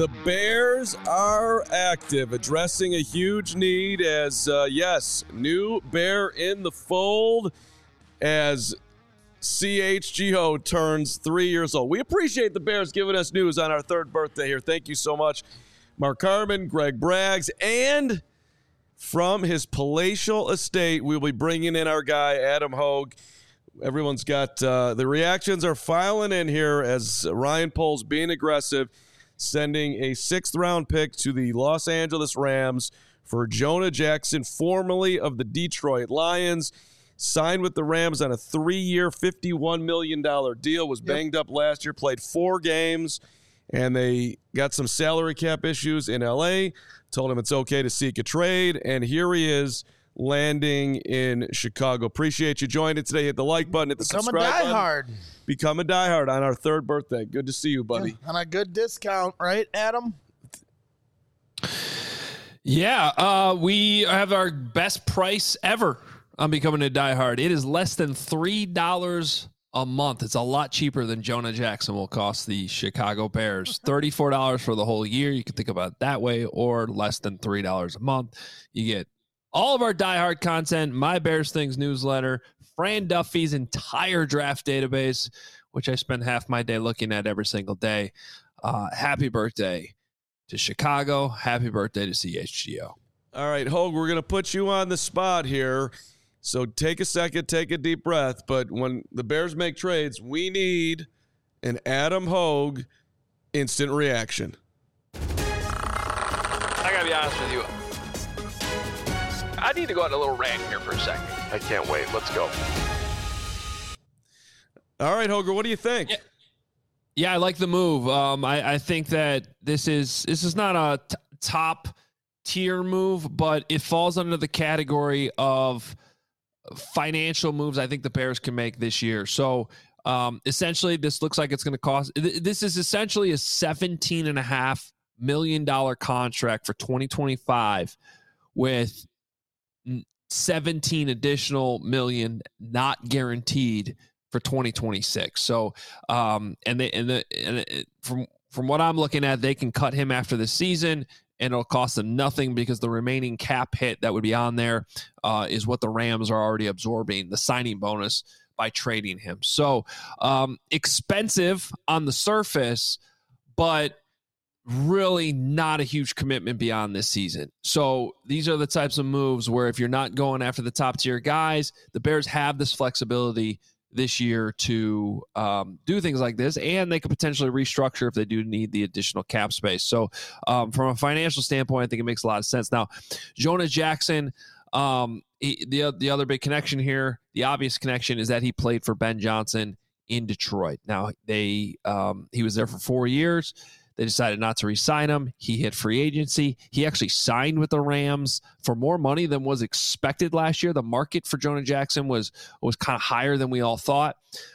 The Bears are active, addressing a huge need as, new Bear in the fold as CHGO turns 3 years old. We appreciate the Bears giving us news on our third birthday here. Thank you so much, Mark Harmon, Greg Braggs, and from his palatial estate, we'll be bringing in our guy, Adam Hogue. Everyone's got the reactions are filing in here as Ryan Poles being aggressive, sending a 6th-round pick to the Los Angeles Rams for Jonah Jackson, formerly of the Detroit Lions. Signed with the Rams on a 3-year, $51 million deal, was banged up last year, played 4 games, and they got some salary cap issues in L.A., told him it's okay to seek a trade, and here he is landing in Chicago. Appreciate you joining today. Hit the like button, hit the subscribe button. Become a diehard on our 3rd birthday. Good to see you, buddy. Yeah, on a good discount, right, Adam? Yeah, we have our best price ever on becoming a diehard. It is less than $3 a month. It's a lot cheaper than Jonah Jackson will cost the Chicago Bears. $34 for the whole year. You can think about it that way, or less than $3 a month. You get all of our diehard content, My Bears Things newsletter, Fran Duffy's entire draft database, which I spend half my day looking at every single day. Happy birthday to Chicago. Happy birthday to CHGO. All right, Hogue, we're going to put you on the spot here. So take a second, take a deep breath. But when the Bears make trades, we need an Adam Hogue instant reaction. I got to be honest with you. I need to go on a little rant here for a second. I can't wait. Let's go. All right, Hoger, what do you think? Yeah, I like the move. I think that this is not a top tier move, but it falls under the category of financial moves I think the Bears can make this year. So essentially, this looks like it's going to cost. This is essentially a $17.5 million contract for 2025 with 17 additional million not guaranteed for 2026. So from what I'm looking at, they can cut him after the season and it'll cost them nothing because the remaining cap hit that would be on there is what the Rams are already absorbing, the signing bonus, by trading him. So expensive on the surface, but really not a huge commitment beyond this season. So these are the types of moves where if you're not going after the top tier guys, the Bears have this flexibility this year to do things like this, and they could potentially restructure if they do need the additional cap space. So from a financial standpoint, I think it makes a lot of sense. Now, Jonah Jackson, the other big connection here, the obvious connection, is that he played for Ben Johnson in Detroit. Now, he was there for 4 years. They decided not to re-sign him. He hit free agency. He actually signed with the Rams for more money than was expected last year. The market for Jonah Jackson was kind of higher than we all thought.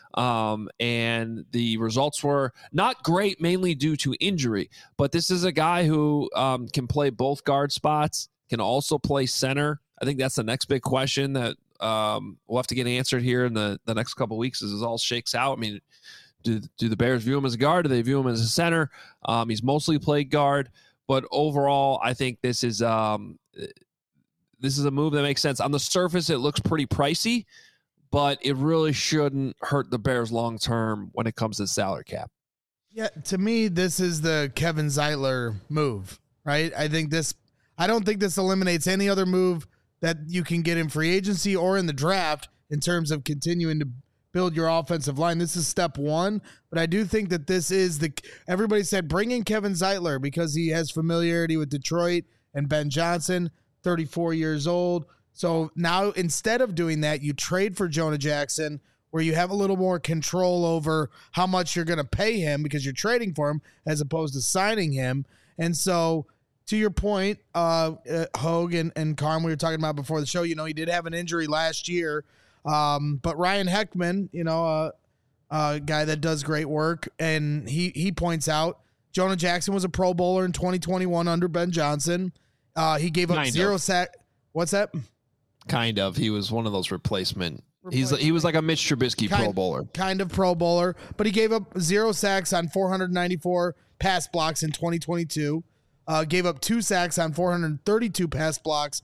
And the results were not great, mainly due to injury. But this is a guy who can play both guard spots, can also play center. I think that's the next big question that we'll have to get answered here in the next couple of weeks as it all shakes out. I mean, do the Bears view him as a guard? Do they view him as a center? He's mostly played guard, but overall, I think this is a move that makes sense. On the surface, it looks pretty pricey, but it really shouldn't hurt the Bears long term when it comes to salary cap. Yeah, to me, this is the Kevin Zeitler move, right? I don't think this eliminates any other move that you can get in free agency or in the draft in terms of continuing to build your offensive line. This is step one, but I do think that this is everybody said bring in Kevin Zeitler because he has familiarity with Detroit and Ben Johnson, 34 years old. So now instead of doing that, you trade for Jonah Jackson where you have a little more control over how much you're going to pay him because you're trading for him as opposed to signing him. And so to your point, Hogue and Carm, we were talking about before the show, he did have an injury last year. But Ryan Heckman, a guy that does great work, and he points out Jonah Jackson was a Pro Bowler in 2021 under Ben Johnson. He gave up zero sack. What's that? Kind of. He was one of those replacement. He was like a Mitch Trubisky Pro Bowler. Kind of Pro Bowler, but he gave up 0 sacks on 494 pass blocks in 2022. Gave up 2 sacks on 432 pass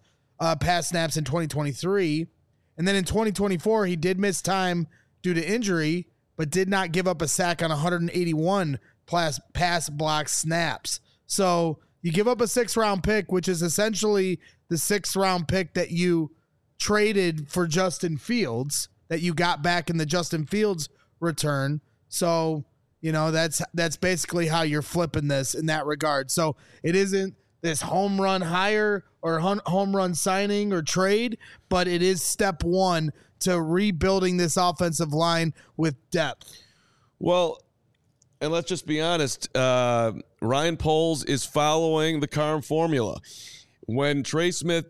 snaps in 2023. And then in 2024, he did miss time due to injury, but did not give up a sack on 181 pass block snaps. So you give up a 6th-round pick, which is essentially the 6th-round pick that you traded for Justin Fields, that you got back in the Justin Fields return. So, that's basically how you're flipping this in that regard. So it isn't this home run hire or home run signing or trade, but it is step one to rebuilding this offensive line with depth. Well, and let's just be honest, Ryan Poles is following the Carm formula. When Trey Smith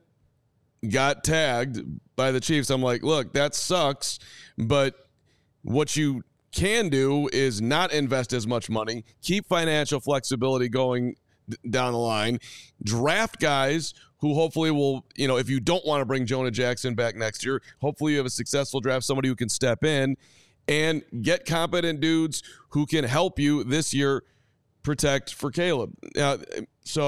got tagged by the Chiefs, I'm like, look, that sucks, but what you can do is not invest as much money, keep financial flexibility going down the line, draft guys who hopefully will, if you don't want to bring Jonah Jackson back next year, hopefully you have a successful draft, somebody who can step in and get competent dudes who can help you this year protect for Caleb. The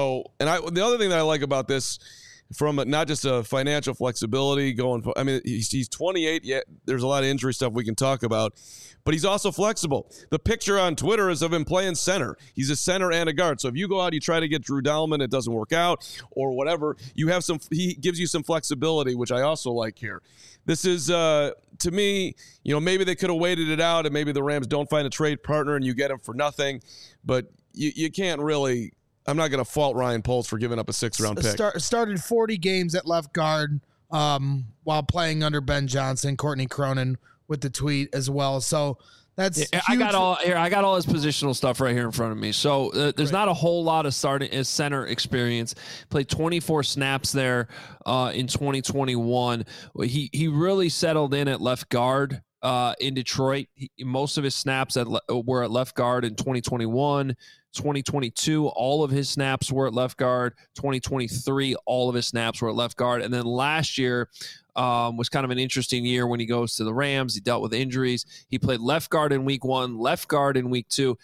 other thing that I like about this, from not just a financial flexibility he's 28, yet there's a lot of injury stuff we can talk about, but he's also flexible. The picture on Twitter is of him playing center. He's a center and a guard. So if you go out, you try to get Drew Dalman, it doesn't work out or whatever, he gives you some flexibility, which I also like here. This is, to me, maybe they could have waited it out and maybe the Rams don't find a trade partner and you get him for nothing, but you can't really. I'm not going to fault Ryan Poles for giving up a 6th-round pick. Started 40 games at left guard while playing under Ben Johnson. Courtney Cronin with the tweet as well. So that's huge. I got all his positional stuff right here in front of me. So there's not a whole lot of starting as center experience. Played 24 snaps there in 2021. He really settled in at left guard in Detroit. Most of his snaps were at left guard in 2021. 2022, all of his snaps were at left guard. 2023, all of his snaps were at left guard. And then last year was kind of an interesting year when he goes to the Rams. He dealt with injuries. He played left guard in week 1, left guard in week 2,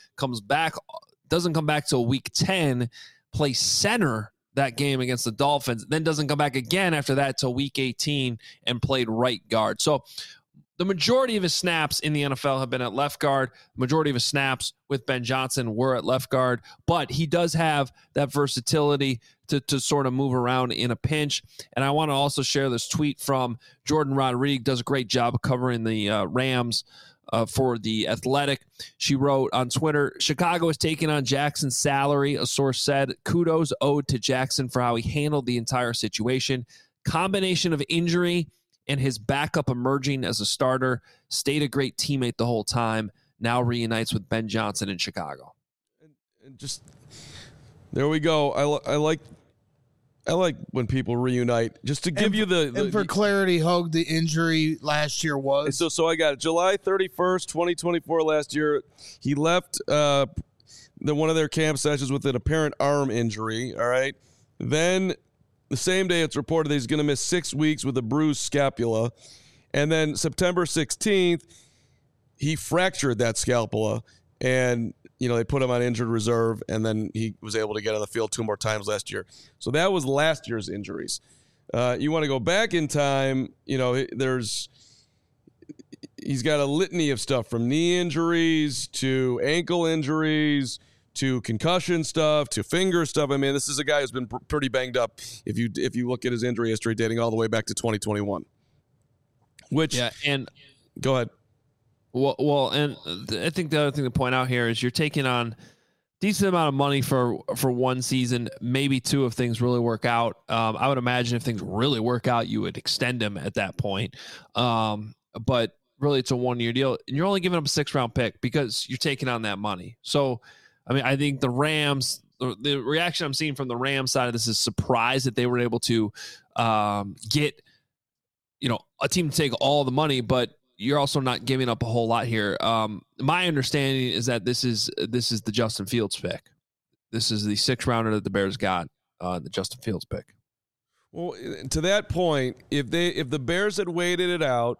doesn't come back till week 10, plays center that game against the Dolphins, then doesn't come back again after that till week 18 and played right guard. So the majority of his snaps in the NFL have been at left guard. The majority of his snaps with Ben Johnson were at left guard, but he does have that versatility to sort of move around in a pinch. And I want to also share this tweet from Jordan Rodriguez, does a great job of covering the Rams for The Athletic. She wrote on Twitter, Chicago is taking on Jackson's salary. A source said, kudos owed to Jackson for how he handled the entire situation. Combination of injury and his backup emerging as a starter, stayed a great teammate the whole time, now reunites with Ben Johnson in Chicago. And just, there we go. I like when people reunite. Just to give you the and for clarity, Hogue, the injury last year was? So I got it. July 31st, 2024 last year, he left one of their camp sessions with an apparent arm injury, all right? Then the same day it's reported that he's going to miss 6 weeks with a bruised scapula. And then September 16th, he fractured that scapula. And, they put him on injured reserve. And then he was able to get on the field 2 more times last year. So that was last year's injuries. You want to go back in time, he's got a litany of stuff from knee injuries to ankle injuries to concussion stuff, to finger stuff. I mean, this is a guy who's been pretty banged up if you look at his injury history dating all the way back to 2021. Go ahead. Well, and I think the other thing to point out here is you're taking on decent amount of money for one season, maybe 2 if things really work out. I would imagine if things really work out, you would extend him at that point. But really, it's a 1-year deal, and you're only giving up a 6th-round pick because you're taking on that money. So, I mean, I think the Rams, the reaction I'm seeing from the Rams side of this is surprised that they were able to get, a team to take all the money, but you're also not giving up a whole lot here. My understanding is that this is the Justin Fields pick. This is the 6th rounder that the Bears got, the Justin Fields pick. Well, to that point, if the Bears had waited it out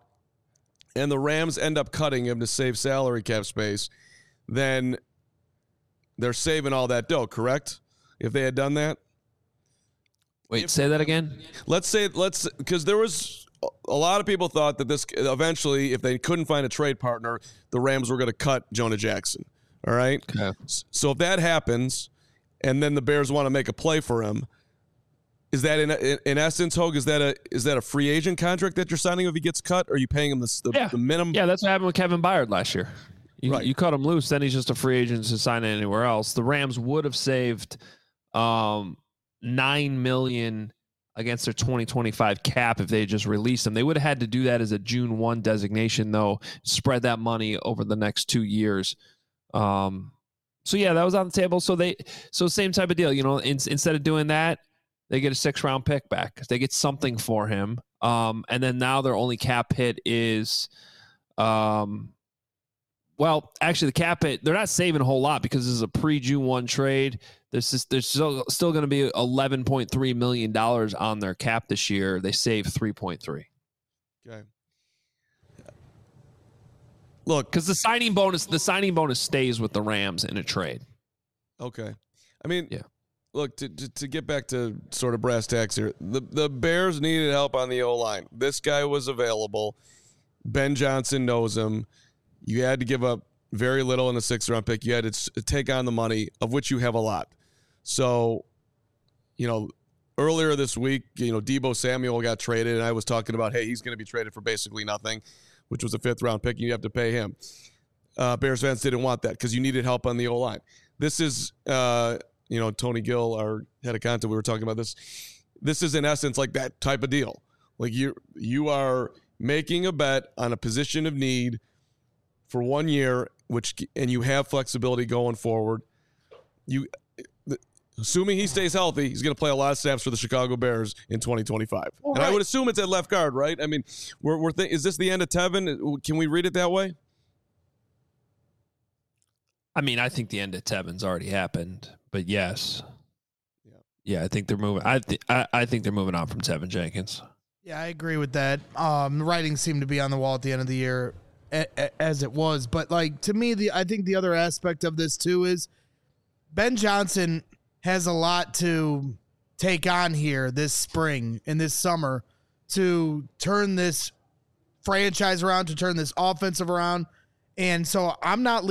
and the Rams end up cutting him to save salary cap space, then they're saving all that dough, correct? If they had done that? Wait, say that again? Because there was a lot of people thought that this eventually, if they couldn't find a trade partner, the Rams were going to cut Jonah Jackson. All right. Okay. So if that happens, and then the Bears want to make a play for him, is that in essence, Hogue? Is that a free agent contract that you're signing if he gets cut? Or are you paying him the minimum? Yeah, that's what happened with Kevin Byard last year. You cut him loose, then he's just a free agent to sign anywhere else. The Rams would have saved $9 million against their 2025 cap if they just released him. They would have had to do that as a June 1 designation, though. Spread that money over the next 2 years. So yeah, that was on the table. So same type of deal, instead of doing that, they get a 6th-round pick back. They get something for him. And then now their only cap hit is, actually the cap hit, they're not saving a whole lot because this is a pre-June 1 trade. There's still going to be $11.3 million on their cap this year. They save 3.3. Okay. Look, because the signing bonus stays with the Rams in a trade. Okay. I mean, yeah. Look, to get back to sort of brass tacks here, the Bears needed help on the O-line. This guy was available. Ben Johnson knows him. You had to give up very little in a 6th-round pick. You had to take on the money, of which you have a lot. So, earlier this week, Deebo Samuel got traded, and I was talking about, hey, he's going to be traded for basically nothing, which was a 5th-round pick, and you have to pay him. Bears fans didn't want that because you needed help on the O-line. This is, Tony Gill, our head of content, we were talking about this. This is, in essence, like that type of deal. Like you are making a bet on a position of need for 1 year, and you have flexibility going forward. Assuming he stays healthy, he's going to play a lot of snaps for the Chicago Bears in 2025. Well, and I would assume it's at left guard, right? I mean, is this the end of Tevin? Can we read it that way? I mean, I think the end of Tevin's already happened, but yes. Yeah, I think they're moving. I think they're moving on from Tevin Jenkins. Yeah, I agree with that. The writing seemed to be on the wall at the end of the year as it was. But, to me, I think the other aspect of this, too, is Ben Johnson has a lot to take on here this spring and this summer to turn this franchise around, to turn this offensive around. And so I'm not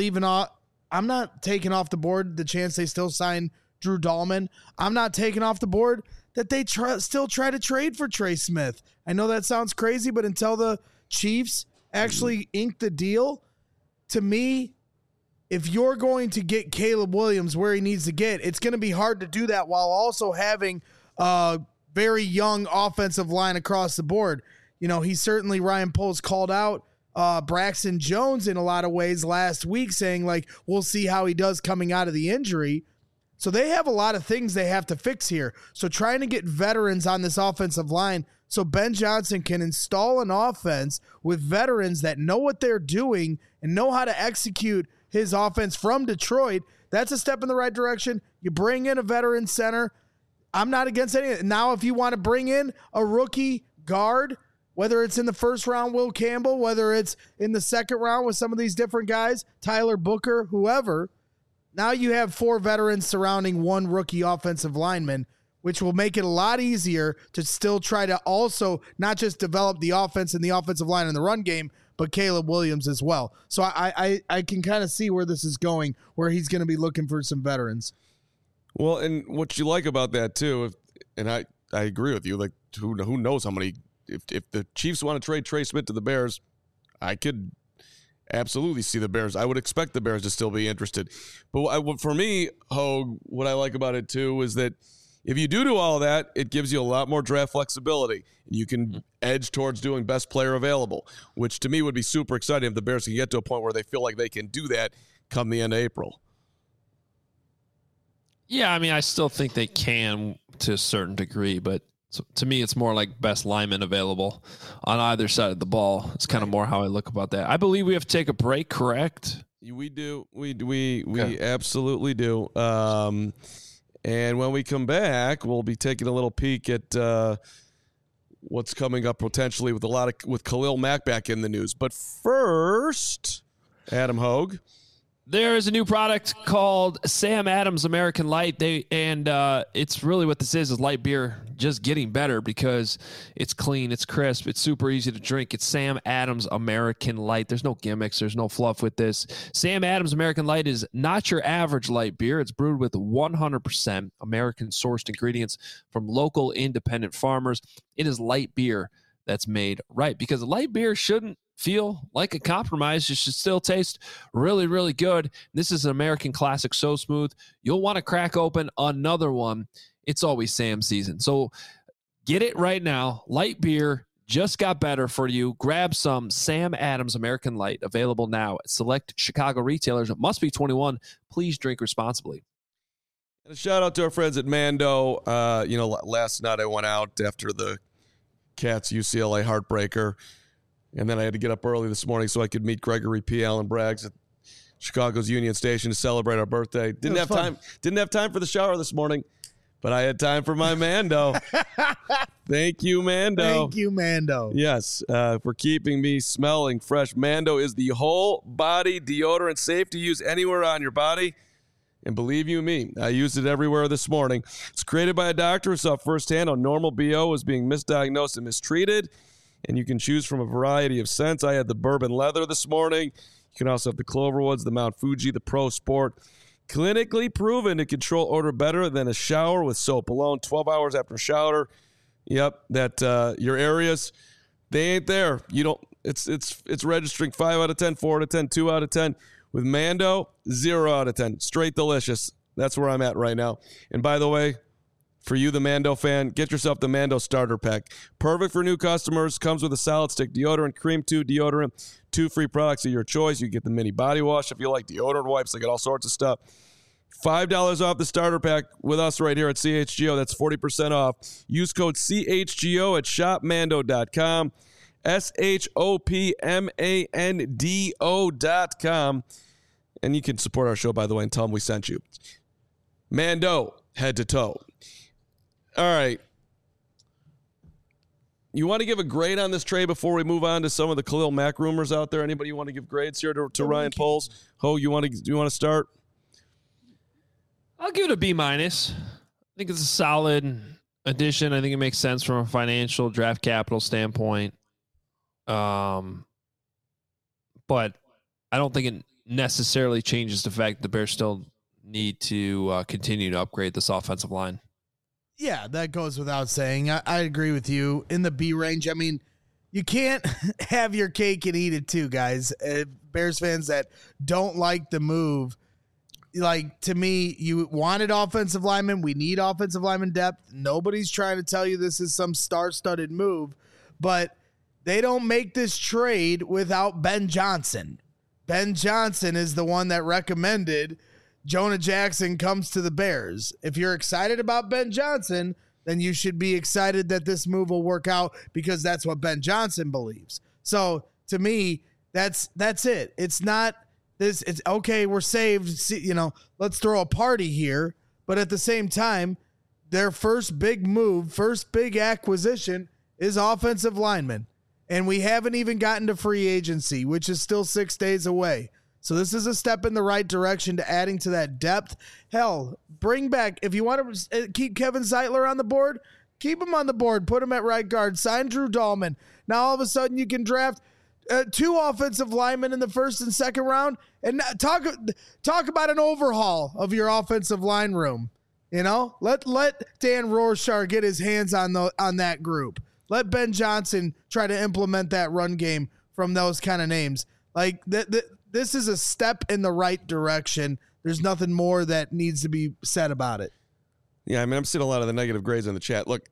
taking off the board the chance they still sign Drew Dahlman. I'm not taking off the board that they still try to trade for Trey Smith. I know that sounds crazy, but until the Chiefs actually ink the deal, to me, if you're going to get Caleb Williams where he needs to get, it's going to be hard to do that while also having a very young offensive line across the board. Ryan Poles called out Braxton Jones in a lot of ways last week, saying we'll see how he does coming out of the injury. So they have a lot of things they have to fix here. So trying to get veterans on this offensive line so Ben Johnson can install an offense with veterans that know what they're doing and know how to execute his offense from Detroit, that's a step in the right direction. You bring in a veteran center. I'm not against anything. Now, if you want to bring in a rookie guard, whether it's in the 1st round, Will Campbell, whether it's in the 2nd round with some of these different guys, Tyler Booker, whoever, now you have 4 veterans surrounding 1 rookie offensive lineman, which will make it a lot easier to still try to also not just develop the offense and the offensive line in the run game, but Caleb Williams as well. So I can kind of see where this is going, where he's going to be looking for some veterans. Well, and what you like about that too, and I agree with you, who knows how many, if the Chiefs want to trade Trey Smith to the Bears, I could absolutely see the Bears. I would expect the Bears to still be interested. But for me, Hogue, what I like about it too is that if you do all of that, it gives you a lot more draft flexibility. You can edge towards doing best player available, which to me would be super exciting if the Bears can get to a point where they feel like they can do that come the end of April. Yeah, I mean, I still think they can to a certain degree, but to me, it's more like best lineman available on either side of the ball. It's kind of more how I look about that. I believe we have to take a break, correct? We do. We absolutely do. And when we come back, we'll be taking a little peek at what's coming up potentially with Khalil Mack back in the news. But first, Adam Hogue, There is a new product called Sam Adams American Light. It's really what this is light beer just getting better because it's clean, it's crisp, it's super easy to drink. It's Sam Adams American Light. There's no gimmicks, there's no fluff with this. Sam Adams American Light is not your average light beer. It's brewed with 100% American-sourced ingredients from local independent farmers. It is light beer that's made right because light beer shouldn't feel like a compromise. It should still taste really, really good. This is an American classic, so smooth. You'll want to crack open another one. It's always Sam season. So get it right now. Light beer just got better for you. Grab some Sam Adams American Light, available now at select Chicago retailers. It must be 21. Please drink responsibly. And a shout out to our friends at Mando. Last night I went out after the Cats UCLA heartbreaker. And then I had to get up early this morning so I could meet Gregory P. Allen Braggs at Chicago's Union Station to celebrate our birthday. Didn't have time for the shower this morning, but I had time for my Mando. Thank you, Mando. Thank you, Mando. Yes, for keeping me smelling fresh. Mando is the whole body deodorant, safe to use anywhere on your body. And believe you me, I used it everywhere this morning. It's created by a doctor who saw firsthand how normal BO was being misdiagnosed and mistreated. And you can choose from a variety of scents. I had the bourbon leather this morning. You can also have the Cloverwoods, the Mount Fuji, the Pro Sport. Clinically proven to control odor better than a shower with soap alone. 12 hours after a shower. Yep, that your areas, they ain't there. You don't. It's registering 5 out of 10, 4 out of 10, 2 out of 10. With Mando, 0 out of 10. Straight delicious. That's where I'm at right now. And by the way, for you, the Mando fan, get yourself the Mando starter pack. Perfect for new customers. Comes with a solid stick deodorant, cream 2 deodorant, 2 free products of your choice. You get the mini body wash if you like deodorant wipes. They got all sorts of stuff. $5 off the starter pack with us right here at CHGO. That's 40% off. Use code CHGO at shopmando.com. SHOPMANDO.com. And you can support our show, by the way, and tell them we sent you. Mando, head to toe. All right. You want to give a grade on this trade before we move on to some of the Khalil Mack rumors out there? Anybody want to give grades here to Ryan Poles? Ho, you want to start? I'll give it a B-. I think it's a solid addition. I think it makes sense from a financial draft capital standpoint. But I don't think it necessarily changes the fact that the Bears still need to continue to upgrade this offensive line. Yeah, that goes without saying. I agree with you. In the B range, I mean, you can't have your cake and eat it too, guys. Bears fans that don't like the move, like, to me, you wanted offensive linemen. We need offensive lineman depth. Nobody's trying to tell you this is some star-studded move, but they don't make this trade without Ben Johnson. Ben Johnson is the one that recommended Jonah Jackson comes to the Bears. If you're excited about Ben Johnson, then you should be excited that this move will work out because that's what Ben Johnson believes. So to me, that's it. It's not this. It's okay. We're saved. Let's throw a party here. But at the same time, their first big move, first big acquisition is offensive lineman. And we haven't even gotten to free agency, which is still 6 days away. So this is a step in the right direction to adding to that depth. Hell, bring back, if you want to keep Kevin Zeitler on the board, keep him on the board. Put him at right guard. Sign Drew Dahlman. Now all of a sudden you can draft 2 offensive linemen in the first and second round and talk about an overhaul of your offensive line room. Let Dan Rorschach get his hands on that group. Let Ben Johnson try to implement that run game from those kind of names. Like this is a step in the right direction. There's nothing more that needs to be said about it. Yeah, I mean, I'm seeing a lot of the negative grades in the chat. Look,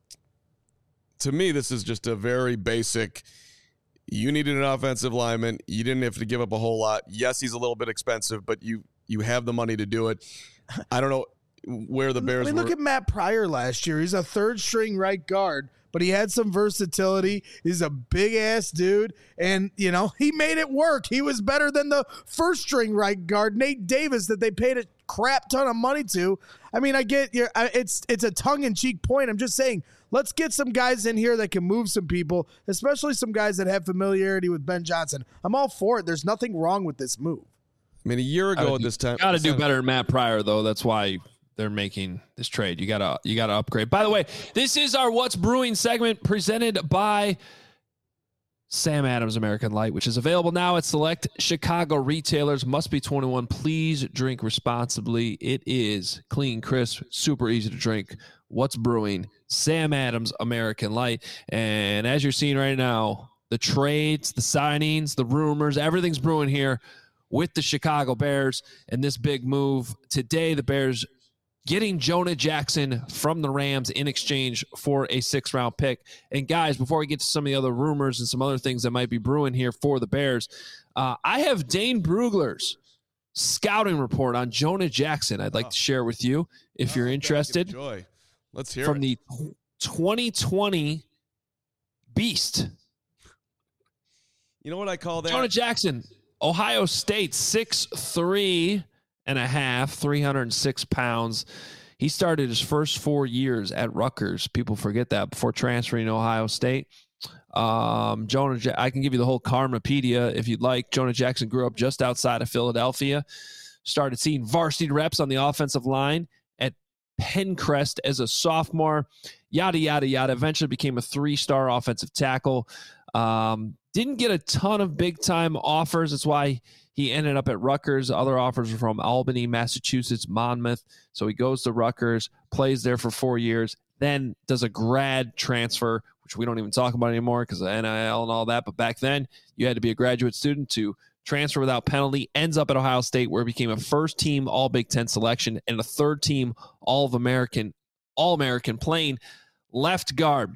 to me, this is just a very basic, you needed an offensive lineman. You didn't have to give up a whole lot. Yes, he's a little bit expensive, but you have the money to do it. I don't know where the Bears look at Matt Pryor last year. He's a third-string right guard, but he had some versatility. He's a big-ass dude, and, he made it work. He was better than the first-string right guard, Nate Davis, that they paid a crap ton of money to. I mean, I get it's a tongue-in-cheek point. I'm just saying, let's get some guys in here that can move some people, especially some guys that have familiarity with Ben Johnson. I'm all for it. There's nothing wrong with this move. I mean, a year ago at this time. Got to do better than Matt Pryor, though. That's why they're making this trade. You gotta upgrade. By the way, this is our What's Brewing segment presented by Sam Adams American Light, which is available now at select Chicago retailers. Must be 21. Please drink responsibly. It is clean, crisp, super easy to drink. What's Brewing? Sam Adams American Light. And as you're seeing right now, the trades, the signings, the rumors, everything's brewing here with the Chicago Bears and this big move. Today, the Bears getting Jonah Jackson from the Rams in exchange for a 6th-round pick. And guys, before we get to some of the other rumors and some other things that might be brewing here for the Bears, I have Dane Brugler's scouting report on Jonah Jackson I'd like to share with you if you're interested. Enjoy. Let's hear from it. the 2020 Beast. You know what I call that? Jonah Jackson, Ohio State, 6'3" and a half, 306 pounds. He started his first 4 years at Rutgers. People forget that before transferring to Ohio State. I can give you the whole Karmapedia if you'd like. Jonah Jackson grew up just outside of Philadelphia, started seeing varsity reps on the offensive line at Pencrest as a sophomore, yada, yada, yada. Eventually became a 3-star offensive tackle. Didn't get a ton of big-time offers. That's why he ended up at Rutgers. Other offers were from Albany, Massachusetts, Monmouth. So he goes to Rutgers, plays there for 4 years, then does a grad transfer, which we don't even talk about anymore because of NIL and all that. But back then, you had to be a graduate student to transfer without penalty. Ends up at Ohio State, where he became a first-team All-Big Ten selection and a third-team All-American playing left guard.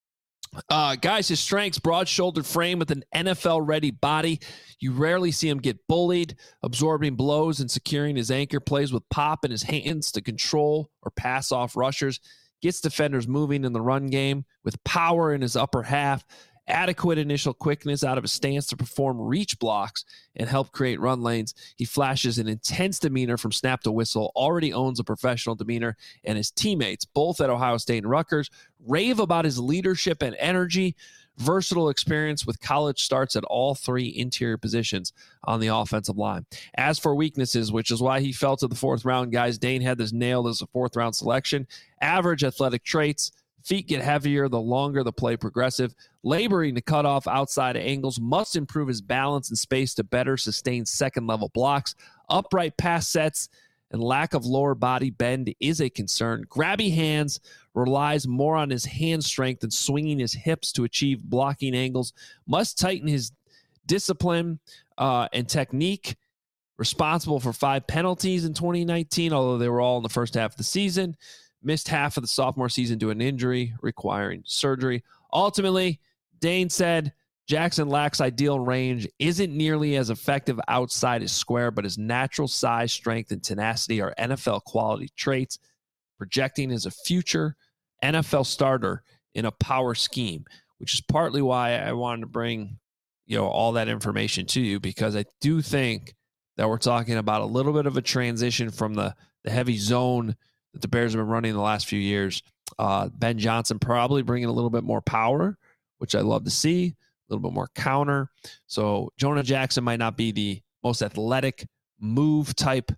Guys, his strengths, broad-shouldered frame with an NFL-ready body. You rarely see him get bullied, absorbing blows and securing his anchor, plays with pop in his hands to control or pass off rushers, gets defenders moving in the run game with power in his upper half, adequate initial quickness out of his stance to perform reach blocks and help create run lanes. He flashes an intense demeanor from snap to whistle, already owns a professional demeanor, and his teammates, both at Ohio State and Rutgers, rave about his leadership and energy, versatile experience with college starts at all 3 interior positions on the offensive line. As for weaknesses, which is why he fell to the 4th round, guys, Dane had this nailed as a 4th round selection. Average athletic traits. Feet get heavier the longer the play progressive. Laboring to cut off outside angles. Must improve his balance and space to better sustain second-level blocks. Upright pass sets and lack of lower body bend is a concern. Grabby hands, relies more on his hand strength and swinging his hips to achieve blocking angles. Must tighten his discipline and technique. Responsible for 5 penalties in 2019, although they were all in the first half of the season. Missed half of the sophomore season due to an injury, requiring surgery. Ultimately, Dane said Jackson lacks ideal range, isn't nearly as effective outside his square, but his natural size, strength, and tenacity are NFL quality traits, projecting as a future NFL starter in a power scheme, which is partly why I wanted to bring, all that information to you, because I do think that we're talking about a little bit of a transition from the heavy zone that the Bears have been running the last few years. Ben Johnson probably bringing a little bit more power, which I love to see, a little bit more counter. So Jonah Jackson might not be the most athletic move type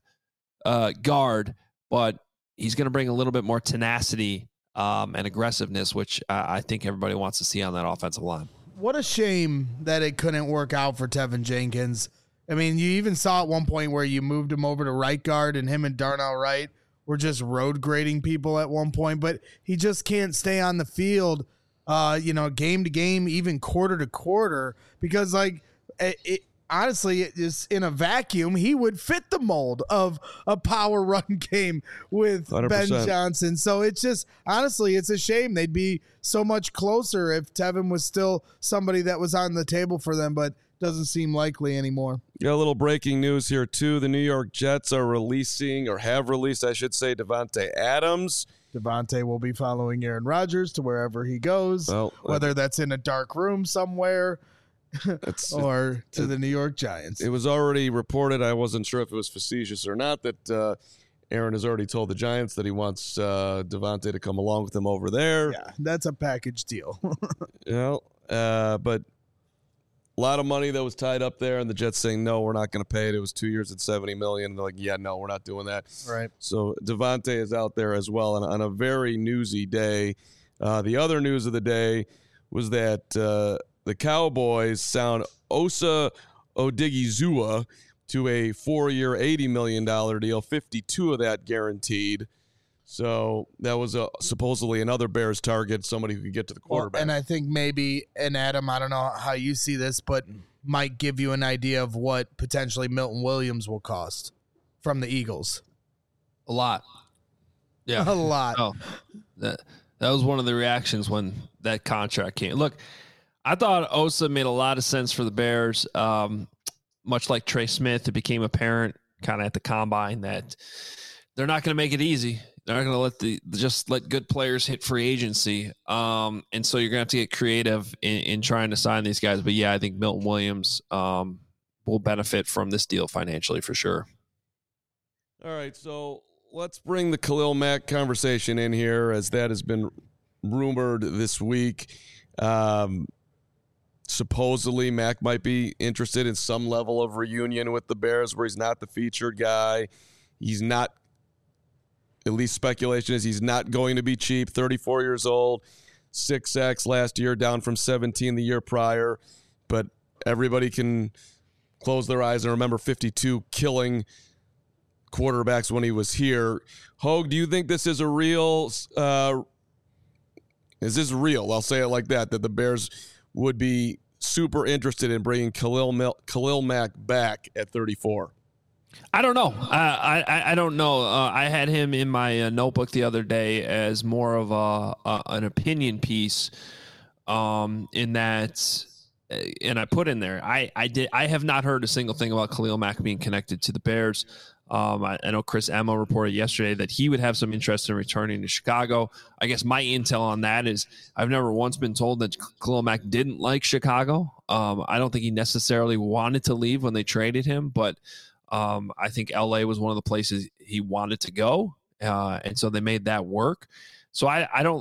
guard, but he's going to bring a little bit more tenacity and aggressiveness, which I think everybody wants to see on that offensive line. What a shame that it couldn't work out for Tevin Jenkins. I mean, you even saw at one point where you moved him over to right guard, and him and Darnell Wright were just road grading people at one point, but he just can't stay on the field, game to game, even quarter to quarter, because honestly, it is in a vacuum, he would fit the mold of a power run game with 100%. Ben Johnson. So it's just, honestly, it's a shame. They'd be so much closer if Tevin was still somebody that was on the table for them, but doesn't seem likely anymore. Got a little breaking news here, too. The New York Jets are releasing, or have released, I should say, Davante Adams. Davante will be following Aaron Rodgers to wherever he goes, whether that's in a dark room somewhere or to the New York Giants. It was already reported, I wasn't sure if it was facetious or not, that Aaron has already told the Giants that he wants Davante to come along with him over there. Yeah, that's a package deal. But lot of money that was tied up there, and the Jets saying, no, we're not going to pay it. It was 2 years at $70 million. They're like, yeah, no, we're not doing that. Right. So Devontae is out there as well on a very newsy day. The other news of the day was that the Cowboys sound Osa Odigizua to a 4-year, $80 million deal, 52 of that guaranteed. So that was supposedly another Bears target, somebody who could get to the quarterback. Well, and I think maybe, and Adam, I don't know how you see this, but might give you an idea of what potentially Milton Williams will cost from the Eagles. A lot. Yeah. A lot. Oh, that was one of the reactions when that contract came. Look, I thought Osa made a lot of sense for the Bears. Much like Trey Smith, it became apparent kind of at the combine that they're not going to make it easy. They're not going to let good players hit free agency. And so you're going to have to get creative in trying to sign these guys. But yeah, I think Milton Williams will benefit from this deal financially for sure. All right, so let's bring the Khalil Mack conversation in here, as that has been rumored this week. Supposedly Mack might be interested in some level of reunion with the Bears where he's not the featured guy. He's not, at least speculation is he's not going to be cheap. 34 years old, 6 sacks last year, down from 17 the year prior. But everybody can close their eyes and remember 52 killing quarterbacks when he was here. Hogue, do you think this is a real is this real? I'll say it like that the Bears would be super interested in bringing Khalil Mack back at 34. I don't know. I don't know. I had him in my notebook the other day as more of an opinion piece in that, and I put in there, I have not heard a single thing about Khalil Mack being connected to the Bears. I know Chris Emma reported yesterday that he would have some interest in returning to Chicago. I guess my intel on that is I've never once been told that Khalil Mack didn't like Chicago. I don't think he necessarily wanted to leave when they traded him, but I think LA was one of the places he wanted to go. And so they made that work. So I don't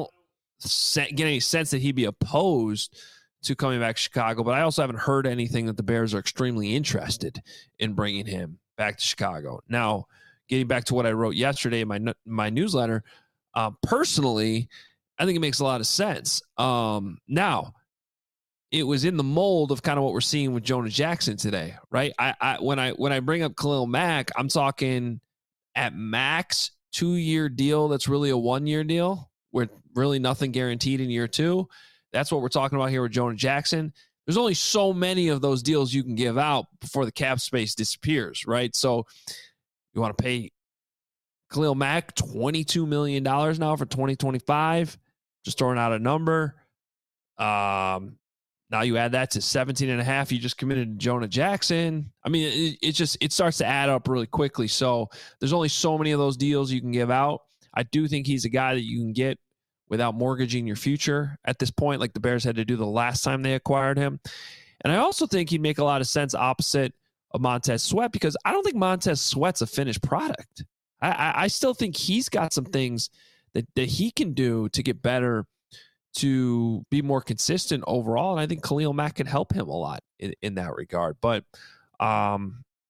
get any sense that he'd be opposed to coming back to Chicago, but I also haven't heard anything that the Bears are extremely interested in bringing him back to Chicago. Now, getting back to what I wrote yesterday in my newsletter, personally, I think it makes a lot of sense. Now, it was in the mold of kind of what we're seeing with Jonah Jackson today, right? When I bring up Khalil Mack, I'm talking at max 2-year deal. That's really a 1-year deal with really nothing guaranteed in year 2. That's what we're talking about here with Jonah Jackson. There's only so many of those deals you can give out before the cap space disappears, right? So you want to pay Khalil Mack $22 million now for 2025, just throwing out a number. Now you add that to 17.5. You just committed to Jonah Jackson. I mean, it starts to add up really quickly. So there's only so many of those deals you can give out. I do think he's a guy that you can get without mortgaging your future at this point, like the Bears had to do the last time they acquired him. And I also think he'd make a lot of sense opposite of Montez Sweat, because I don't think Montez Sweat's a finished product. I still think he's got some things that he can do to get better, to be more consistent overall. And I think Khalil Mack can help him a lot in that regard. But my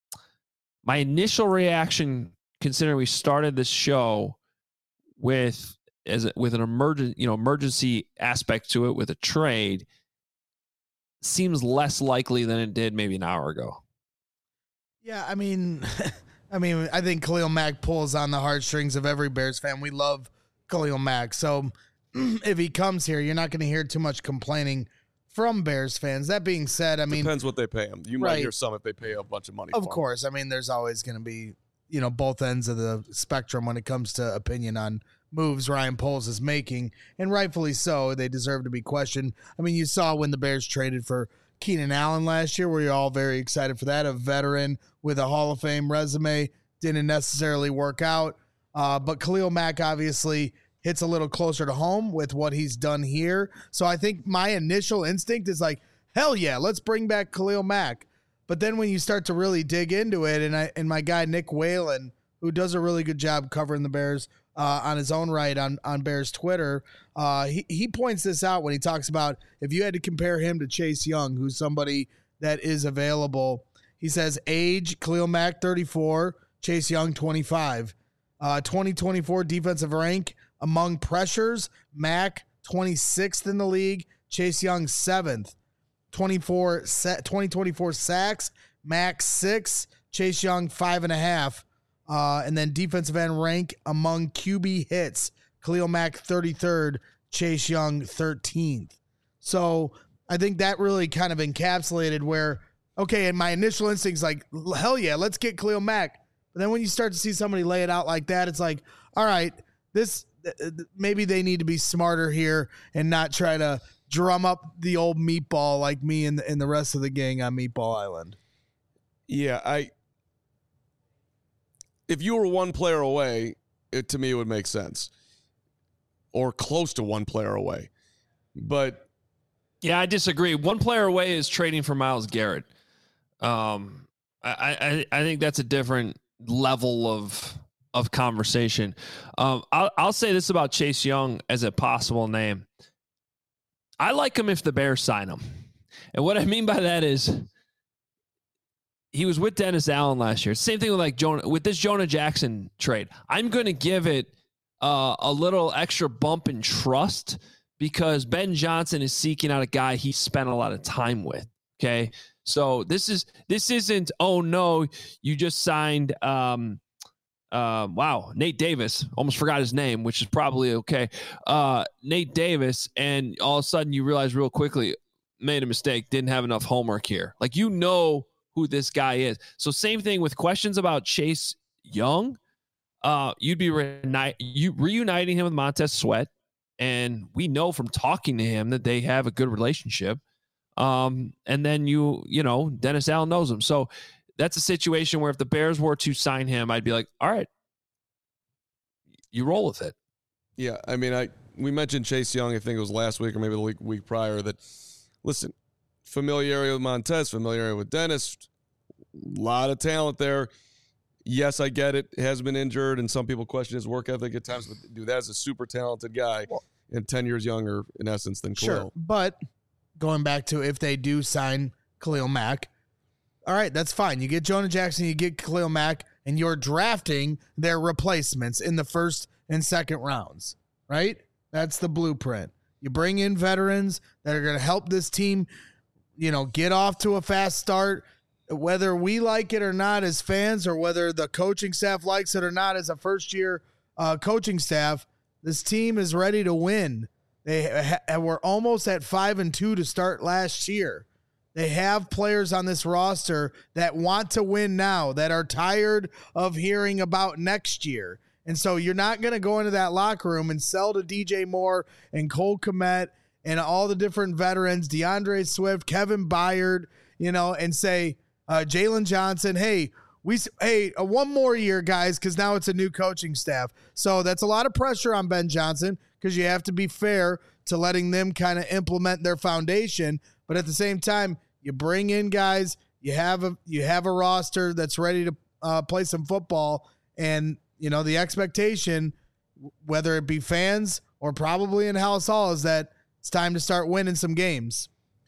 initial reaction, considering we started this show with an emergency aspect to it with a trade, seems less likely than it did maybe an hour ago. Yeah, I mean, I think Khalil Mack pulls on the heartstrings of every Bears fan. We love Khalil Mack. So if he comes here, you're not going to hear too much complaining from Bears fans. That being said, I mean, depends what they pay him. You might hear some if they pay a bunch of money. Of course. I mean, there's always going to be, both ends of the spectrum when it comes to opinion on moves Ryan Poles is making, and rightfully so. They deserve to be questioned. I mean, you saw when the Bears traded for Keenan Allen last year, were you all very excited for that? A veteran with a Hall of Fame resume, didn't necessarily work out. But Khalil Mack obviously hits a little closer to home with what he's done here. So I think my initial instinct is like, hell yeah, let's bring back Khalil Mack. But then when you start to really dig into it, and my guy Nick Whalen, who does a really good job covering the Bears on his own right on Bears Twitter. He points this out when he talks about if you had to compare him to Chase Young, who's somebody that is available. He says age, Khalil Mack 34, Chase Young 25. 2024 defensive rank among pressures, Mack 26th in the league, Chase Young 7th. 2024 sacks, Mack 6, Chase Young 5.5. And then defensive end rank among QB hits, Khalil Mack 33rd, Chase Young 13th. So I think that really kind of encapsulated where, okay, and my initial instinct's like, hell yeah, let's get Khalil Mack. But then when you start to see somebody lay it out like that, it's like, all right, this maybe they need to be smarter here and not try to drum up the old meatball like me and the rest of the gang on Meatball Island. Yeah, if you were one player away, to me it would make sense. Or close to one player away. But yeah, I disagree. One player away is trading for Myles Garrett. I think that's a different level of conversation. I'll say this about Chase Young as a possible name. I like him if the Bears sign him. And what I mean by that is he was with Dennis Allen last year. Same thing with this Jonah Jackson trade. I'm going to give it a little extra bump in trust because Ben Johnson is seeking out a guy he spent a lot of time with. Okay. So this isn't, oh no, you just signed, Nate Davis, almost forgot his name, which is probably okay. Nate Davis. And all of a sudden you realize real quickly, made a mistake, didn't have enough homework here. Like, you know who this guy is. So same thing with questions about Chase Young. You'd be reuniting him with Montez Sweat. And we know from talking to him that they have a good relationship. And then Dennis Allen knows him. So that's a situation where if the Bears were to sign him, I'd be like, all right, you roll with it. Yeah, I mean, we mentioned Chase Young, I think it was last week or maybe the week prior, that, listen, familiarity with Montez, familiarity with Dennis, a lot of talent there. Yes, I get it. He has been injured, and some people question his work ethic at times, but dude, that's a super talented guy and 10 years younger, in essence, than Khalil. Sure, but going back to if they do sign Khalil Mack, all right, that's fine. You get Jonah Jackson, you get Khalil Mack, and you're drafting their replacements in the first and second rounds, right? That's the blueprint. You bring in veterans that are going to help this team, get off to a fast start, whether we like it or not as fans or whether the coaching staff likes it or not as a first-year coaching staff. This team is ready to win. They were almost at 5-2 to start last year. They have players on this roster that want to win now, that are tired of hearing about next year. And so you're not going to go into that locker room and sell to DJ Moore and Cole Kmet and all the different veterans, DeAndre Swift, Kevin Byard, and say, Jalen Johnson, hey, one more year, guys, because now it's a new coaching staff. So that's a lot of pressure on Ben Johnson because you have to be fair to letting them kind of implement their foundation. But at the same time, you bring in guys, you have a roster that's ready to play some football, and the expectation, whether it be fans or probably in House Hall, is that it's time to start winning some games.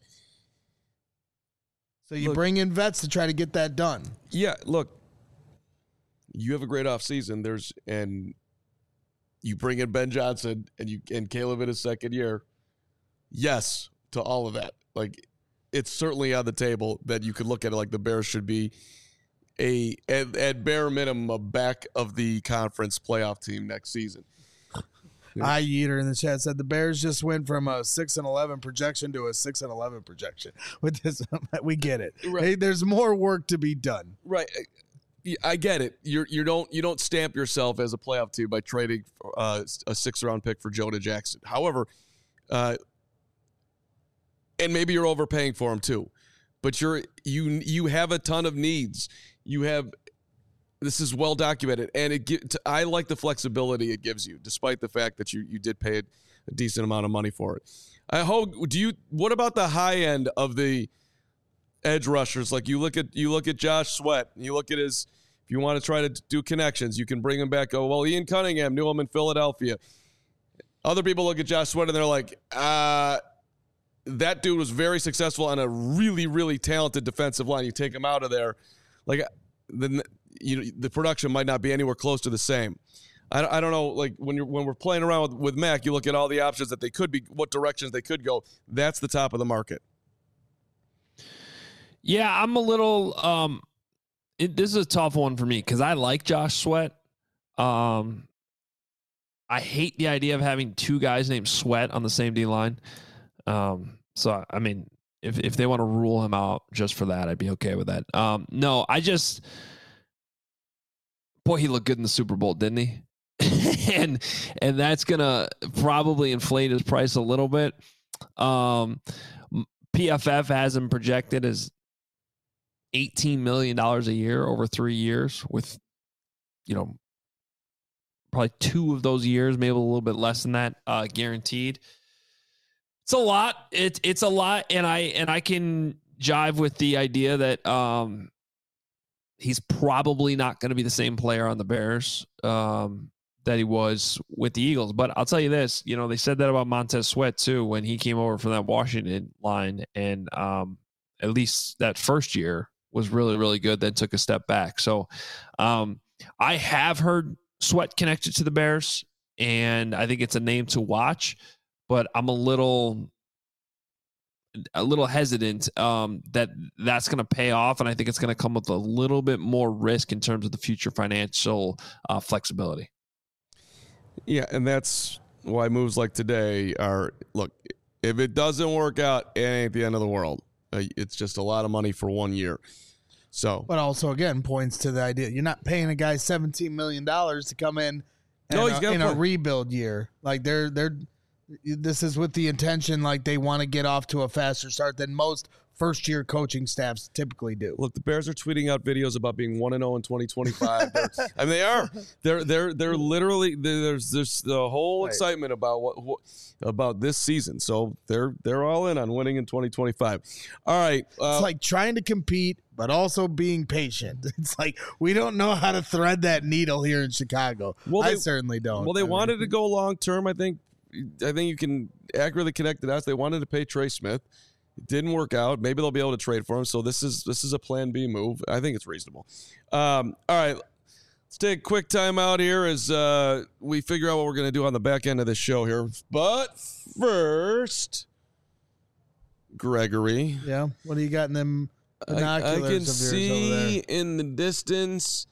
So you bring in vets to try to get that done. Yeah, look, you have a great offseason. And you bring in Ben Johnson and Caleb in his second year. Yes, to all of that. Like, it's certainly on the table that you could look at it like the Bears should be at bare minimum a back of the conference playoff team next season. Yeater in the chat said the Bears just went from a 6-11 projection to a 6-11 projection. With this, we get it. Right. Hey, there's more work to be done. Right. I get it. You don't stamp yourself as a playoff team by trading a 6th-round pick for Jonah Jackson. However, and maybe you're overpaying for him too, but you have a ton of needs. This is well documented, and I like the flexibility it gives you, despite the fact that you did pay a decent amount of money for it. What about the high end of the edge rushers? Like you look at Josh Sweat, you look at his If you want to try to do connections, you can bring him back. Oh, well, Ian Cunningham knew him in Philadelphia. Other people look at Josh Sweat and they're like, that dude was very successful on a really, really talented defensive line. You take him out of there, like the production might not be anywhere close to the same. I don't know. Like when we're playing around with Mac, you look at all the options that they could be, what directions they could go. That's the top of the market. Yeah, I'm a little. This is a tough one for me because I like Josh Sweat. I hate the idea of having two guys named Sweat on the same D line. So I mean, if they want to rule him out just for that, I'd be okay with that. No, boy, he looked good in the Super Bowl, didn't he? and that's gonna probably inflate his price a little bit. PFF has him projected as $18 million a year over 3 years, with probably 2 of those years, maybe a little bit less than that, guaranteed. It's a lot. It's a lot, and I can jive with the idea that he's probably not going to be the same player on the Bears that he was with the Eagles. But I'll tell you this, they said that about Montez Sweat too when he came over from that Washington line, and at least that first year was really, really good. Then took a step back. So I have heard Sweat connected to the Bears, and I think it's a name to watch. But I'm a little hesitant that's going to pay off, and I think it's going to come with a little bit more risk in terms of the future financial flexibility. Yeah, and that's why moves like today are, look, if it doesn't work out, it ain't the end of the world. It's just a lot of money for 1 year. So, but also, again, points to the idea you're not paying a guy $17 million to come in a rebuild year. Like this is with the intention, like they want to get off to a faster start than most first-year coaching staffs typically do. Look, the Bears are tweeting out videos about being 1-0 in 2025. And they are. They're literally, there's the whole excitement about what about this season. So they're all in on winning in 2025. All right. It's like trying to compete, but also being patient. It's like we don't know how to thread that needle here in Chicago. Well, I certainly don't. Well, they wanted to go long-term. I think you can accurately connect the dots. They wanted to pay Trey Smith. It didn't work out. Maybe they'll be able to trade for him. So this is a plan B move. I think it's reasonable. All right, let's take a quick time out here as we figure out what we're going to do on the back end of this show here. But first, Gregory. Yeah, what do you got in them binoculars? I can see in the distance.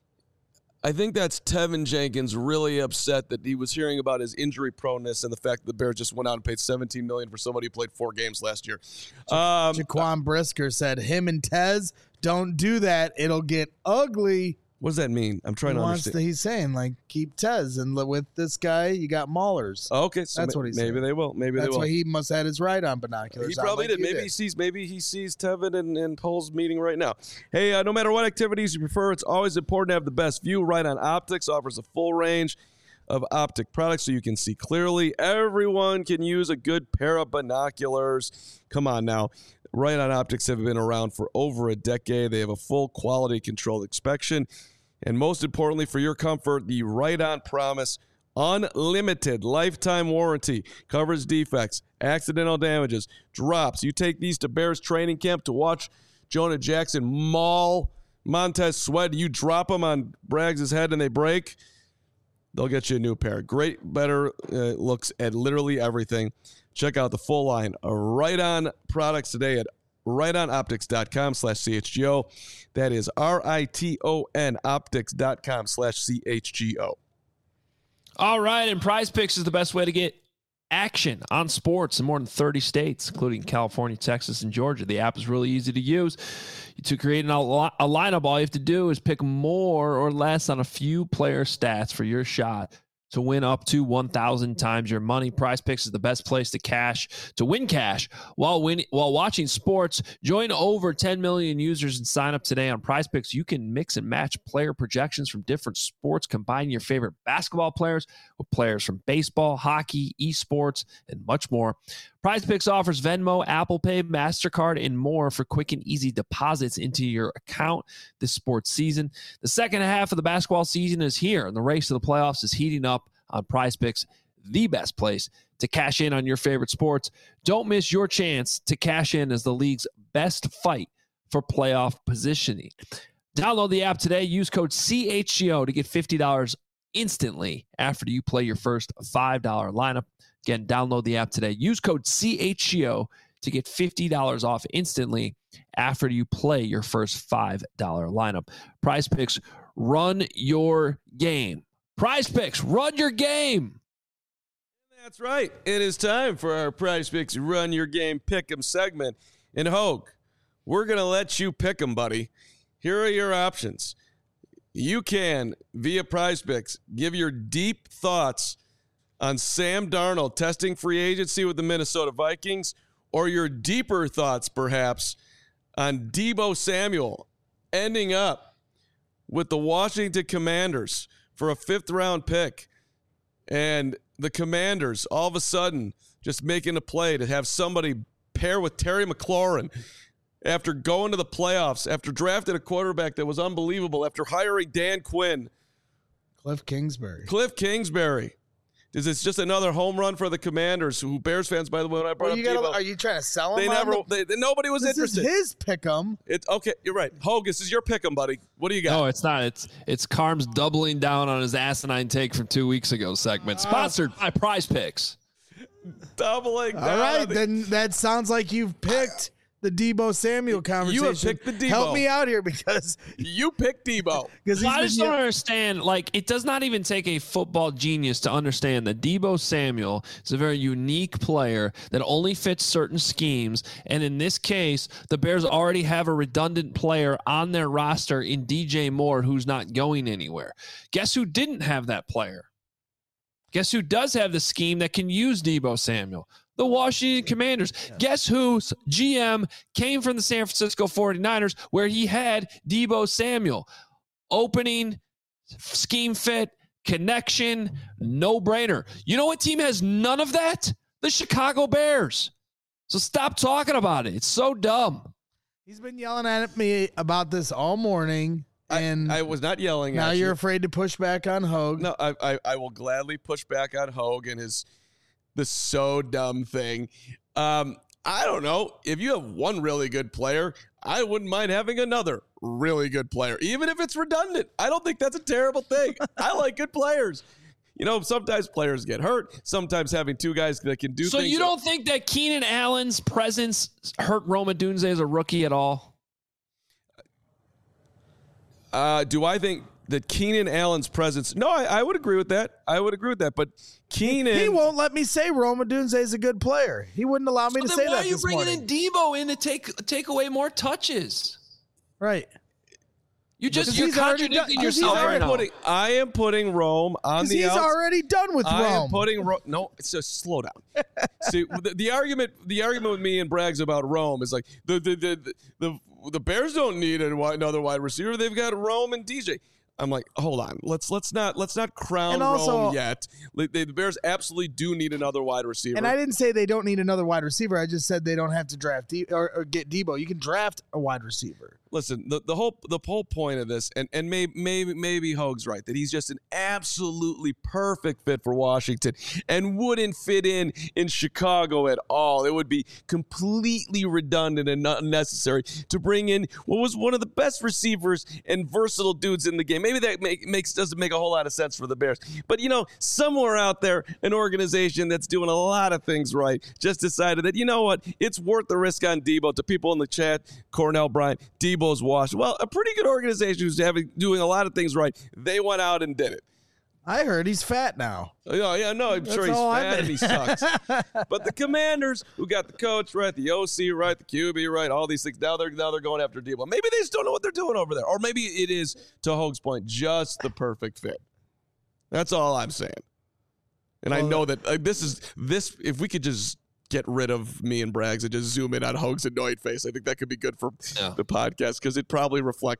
I think that's Tevin Jenkins really upset that he was hearing about his injury proneness and the fact that the Bears just went out and paid $17 million for somebody who played 4 games last year. Jaquan Brisker said, him and Tez, don't do that. It'll get ugly. What does that mean? I'm trying to understand. He's saying, like, keep Tez, and with this guy, you got Maulers. Oh, okay, so that's what he's saying. Maybe they will. That's why he must have had his right on binoculars. He probably did. Maybe he sees Tevin and Pole's meeting right now. Hey, no matter what activities you prefer, it's always important to have the best view. Right On Optics offers a full range of optic products so you can see clearly. Everyone can use a good pair of binoculars. Come on now. Right On Optics have been around for over a decade. They have a full quality control inspection. And most importantly, for your comfort, the Right On Promise unlimited lifetime warranty covers defects, accidental damages, drops. You take these to Bears training camp to watch Jonah Jackson maul Montez Sweat. You drop them on Braggs' head and they break, they'll get you a new pair. Great, better looks at literally everything. Check out the full line of Right On products today at rightonoptics.com/CHGO. That is RITON optics.com/CHGO. All right, and Prize Picks is the best way to get action on sports in more than 30 states, including California, Texas, and Georgia. The app is really easy to use. To create a lineup, all you have to do is pick more or less on a few player stats for your shot to win up to 1,000 times your money. Prize Picks is the best place to win cash while watching sports. Join over 10 million users and sign up today on Prize Picks. You can mix and match player projections from different sports, combine your favorite basketball players with players from baseball, hockey, esports, and much more. PrizePicks offers Venmo, Apple Pay, MasterCard, and more for quick and easy deposits into your account this sports season. The second half of the basketball season is here, and the race to the playoffs is heating up on PrizePicks, the best place to cash in on your favorite sports. Don't miss your chance to cash in as the league's best fight for playoff positioning. Download the app today. Use code CHGO to get $50 instantly after you play your first $5 lineup. Again, download the app today. Use code CHGO to get $50 off instantly after you play your first $5 lineup. PrizePicks, run your game. PrizePicks, run your game. That's right. It is time for our PrizePicks Run Your Game Pick'em segment. And Hogue, we're going to let you pick them, buddy. Here are your options. You can, via PrizePicks, give your deep thoughts on Sam Darnold testing free agency with the Minnesota Vikings, or your deeper thoughts, perhaps, on Deebo Samuel ending up with the Washington Commanders for a 5th-round pick. And the Commanders, all of a sudden, just making a play to have somebody pair with Terry McLaurin after going to the playoffs, after drafting a quarterback that was unbelievable, after hiring Dan Quinn. Cliff Kingsbury. Is this just another home run for the Commanders, who Bears fans, by the way, when I brought up Deebo, are you trying to sell him? Nobody was interested. This is his pick'em. It's okay. You're right. Hogue, this is your pick'em, buddy. What do you got? No, it's not. It's Carm's doubling down on his asinine take from 2 weeks ago segment, sponsored by PrizePicks. Doubling down. All right, then that sounds like you've picked the Deebo Samuel conversation. You have picked the Deebo. Help me out here, because you picked Deebo. Well, I just don't understand. Like, it does not even take a football genius to understand that Deebo Samuel is a very unique player that only fits certain schemes. And in this case, the Bears already have a redundant player on their roster in DJ Moore, who's not going anywhere. Guess who didn't have that player? Guess who does have the scheme that can use Deebo Samuel? The Washington Commanders. Guess whose GM came from the San Francisco 49ers, where he had Deebo Samuel? Opening, scheme fit, connection, no-brainer. You know what team has none of that? The Chicago Bears. So stop talking about it. It's so dumb. He's been yelling at me about this all morning. And I was not yelling at you. Now you're afraid to push back on Hogue. No, I will gladly push back on Hogue and the so dumb thing. I don't know. If you have one really good player, I wouldn't mind having another really good player, even if it's redundant. I don't think that's a terrible thing. I like good players. You know, sometimes players get hurt. Sometimes having two guys that can do things. So you don't think that Keenan Allen's presence hurt Rome Odunze as a rookie at all? Do I think that Keenan Allen's presence? No, I would agree with that. But Keenan, he won't let me say Rome Odunze is a good player. He wouldn't allow me to say that. Why are you bringing in Deebo in to take away more touches? Right. You're contradicting yourself right now. I am putting Rome on the outside. He's already done with Rome. I am putting Rome. No, it's just slow down. See, the argument with me and Braggs about Rome is like the Bears don't need another wide receiver. They've got Rome and DJ. I'm like, hold on. Let's not crown Rome yet. The Bears absolutely do need another wide receiver. And I didn't say they don't need another wide receiver. I just said they don't have to draft or get Deebo. You can draft a wide receiver. Listen, the whole point of this, and maybe Hogue's right, that he's just an absolutely perfect fit for Washington and wouldn't fit in Chicago at all. It would be completely redundant and unnecessary to bring in what was one of the best receivers and versatile dudes in the game. Maybe that doesn't make a whole lot of sense for the Bears. But, you know, somewhere out there, an organization that's doing a lot of things right just decided that, you know what, it's worth the risk on Deebo. To people in the chat, Cornell Bryant, Deebo's washed. Well, a pretty good organization who's doing a lot of things right. They went out and did it. I heard he's fat now. Yeah, no, I'm sure he's fat and he sucks. But the Commanders, who got the coach right, the OC right, the QB right, all these things, now they're going after Deebo. Maybe they just don't know what they're doing over there. Or maybe it is, to Hogue's point, just the perfect fit. That's all I'm saying. And I know that this, if we could just get rid of me and Braggs and just zoom in on Hogue's annoyed face, I think that could be good for the podcast, because it probably reflects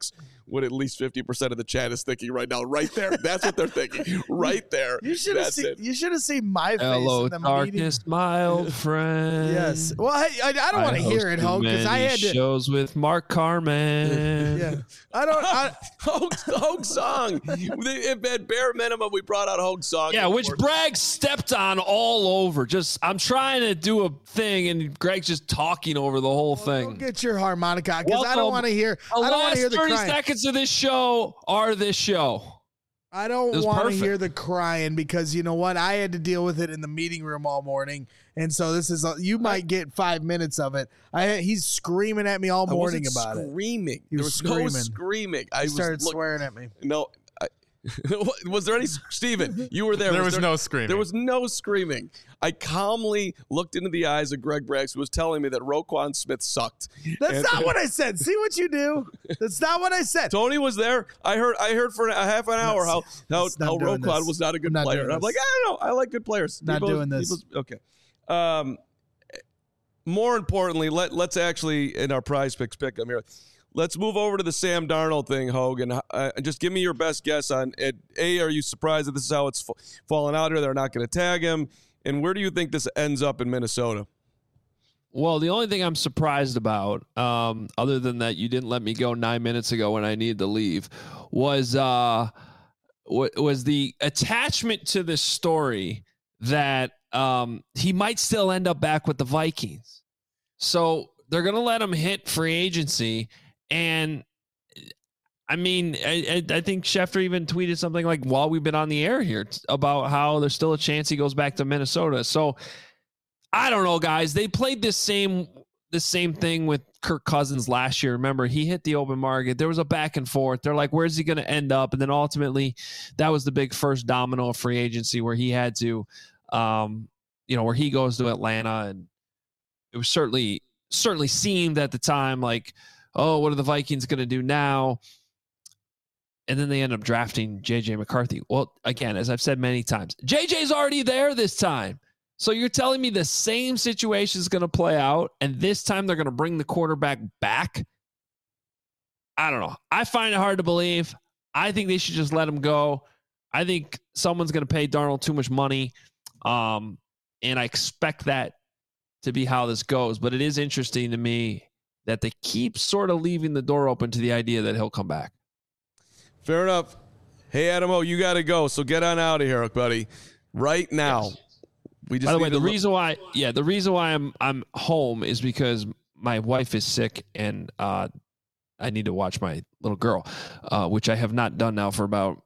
what at least 50% of the chat is thinking right now. Right there. That's what they're thinking. Right there. You should have seen my face Hello, in the darkness, meeting. my old friend. Yes. Well, I don't want to hear it, Hogue, because I had to. shows with Mark Carman. Yeah. Hogue song. If at bare minimum we brought out Hogue song. Yeah, which Bragg stepped on all over. I'm trying to do a thing, and Greg's just talking over the whole thing. Go get your harmonica, because I don't want to hear. I don't want to hear the 30 crying. seconds of this show are this show. I don't want to hear the crying, because you know what? I had to deal with it in the meeting room all morning, and so this is you might get 5 minutes of it. He's screaming at me all morning about it. Screaming. He was screaming. No screaming. He started swearing at me. No. Was there any Steven, you were there. There was no screaming. There was no screaming. I calmly looked into the eyes of Greg Braggs, who was telling me that Roquan Smith sucked. That's not what I said. See what you do? That's not what I said. Tony was there. I heard for a half an hour how Roquan was not a good player. And I'm like, I don't know. I like good players. Not doing this. Okay. More importantly, let's actually, in our prize picks pick 'em here. Let's move over to the Sam Darnold thing, Hogan. Just give me your best guess on it. A, are you surprised that this is how it's fallen out here? They're not going to tag him. And where do you think this ends up in Minnesota? Well, the only thing I'm surprised about, other than that you didn't let me go 9 minutes ago when I needed to leave, was the attachment to this story that he might still end up back with the Vikings. So they're going to let him hit free agency. And I mean, I think Schefter even tweeted something like, while we've been on the air here, about how there's still a chance he goes back to Minnesota. So I don't know, guys. They played the same thing with Kirk Cousins last year. Remember, he hit the open market. There was a back and forth. They're like, where's he going to end up? And then ultimately, that was the big first domino of free agency where he had to, where he goes to Atlanta. And it was certainly seemed at the time like, oh, what are the Vikings going to do now? And then they end up drafting J.J. McCarthy. Well, again, as I've said many times, J.J.'s already there this time. So you're telling me the same situation is going to play out, and this time they're going to bring the quarterback back? I don't know. I find it hard to believe. I think they should just let him go. I think someone's going to pay Darnold too much money, and I expect that to be how this goes. But it is interesting to me that they keep sort of leaving the door open to the idea that he'll come back. Fair enough. Hey, Adam O, you got to go, so get on out of here, buddy. Right now. Yes. We just By the way, the reason why I'm home is because my wife is sick and I need to watch my little girl, which I have not done now for about